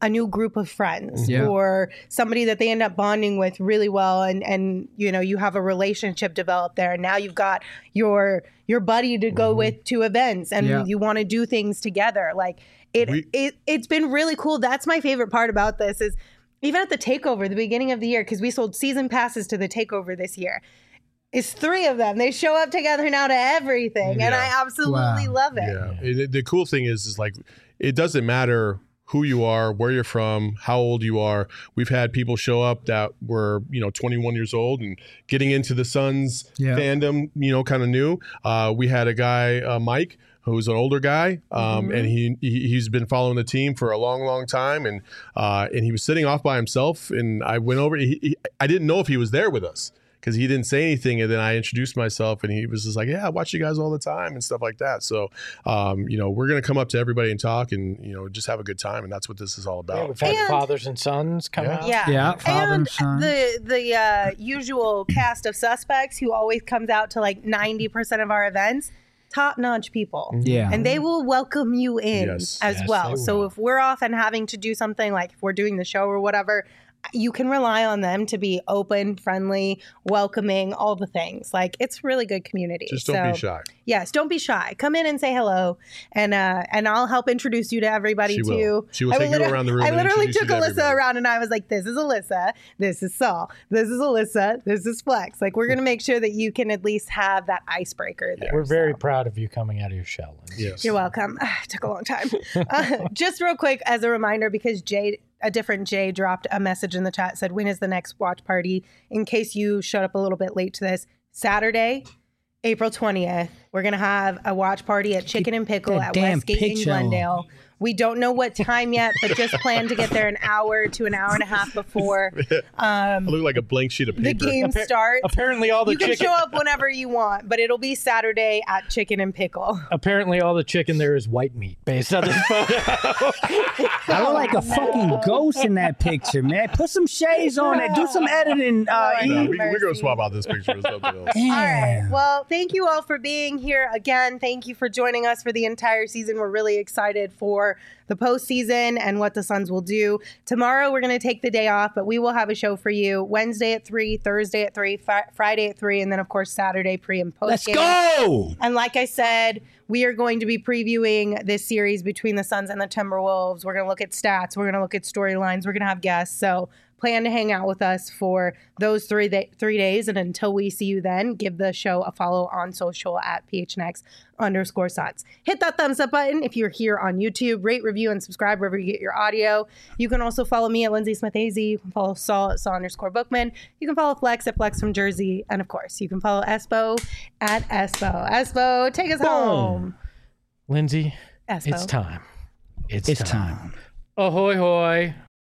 a new group of friends
Yeah.
or somebody that they end up bonding with really well, and you have a relationship developed there, and now you've got your buddy to go with to events, and you want to do things together. Like it's been really cool. That's my favorite part about this is even at the takeover, the beginning of the year, because we sold season passes to the takeover this year. It's 3 of them. They show up together now to everything, and I absolutely love it.
Yeah. The cool thing is like it doesn't matter who you are, where you're from, how old you are. We've had people show up that were 21 years old and getting into the Suns fandom, kind of new. We had a guy, Mike, who's an older guy, and he's been following the team for a long time, and he was sitting off by himself, and I went over. I didn't know if he was there with us, because he didn't say anything, and then I introduced myself, and he was just like, "Yeah, I watch you guys all the time," and stuff like that. So, we're gonna come up to everybody and talk, and just have a good time, and that's what this is all about.
Yeah, we've had fathers and sons come out.
Yeah,
father and son.
The usual cast of suspects who always comes out to like 90% of our events. Top-notch people.
Yeah.
And they will welcome you in as well. So if we're off and having to do something, like if we're doing the show or whatever, you can rely on them to be open, friendly, welcoming, all the things. Like, it's really good community.
Just don't be shy.
Yes, don't be shy. Come in and say hello, and I'll help introduce you to everybody too.
She will take you around the room.
I literally
took
Alyssa around, and I was like, "This is Alyssa. This is Saul. This is Alyssa. This is Flex." Like, we're gonna make sure that you can at least have that icebreaker there.
We're very proud of you coming out of your shell.
Yes.
You're welcome. It took a long time. Just real quick as a reminder, because a different Jay dropped a message in the chat, said, "When is the next watch party?" In case you showed up a little bit late to this, Saturday, April 20th, we're going to have a watch party at Chicken and Pickle at Westgate in Glendale. We don't know what time yet, but just plan to get there an hour to an hour and a half before
I look like a blank sheet of paper.
the game starts.
Apparently all the
You can show up whenever you want, but it'll be Saturday at Chicken and Pickle.
Apparently all the chicken there is white meat based on this photo.
I look like a fucking ghost in that picture, man. Put some shades on it. Do some editing.
We're going to swap out this picture with something else.
All right. Well, thank you all for being here again. Thank you for joining us for the entire season. We're really excited for the postseason and what the Suns will do. Tomorrow, we're going to take the day off, but we will have a show for you Wednesday at 3, Thursday at 3, Friday at 3, and then, of course, Saturday pre and post
Let's
game.
go!
And like I said, we are going to be previewing this series between the Suns and the Timberwolves. We're going to look at stats. We're going to look at storylines. We're going to have guests. So plan to hang out with us for those 3 days. And until we see you then, give the show a follow on social at PHNX_Suns. Hit that thumbs up button if you're here on YouTube. Rate, review, and subscribe wherever you get your audio. You can also follow me at Lindsay Smith AZ. You can follow Saul at Saul_Bookman. You can follow Flex at Flex from Jersey. And of course, you can follow Espo at Espo. Espo, take us home.
Lindsay,
Espo.
it's time.
It's time.
Ahoy, hoy.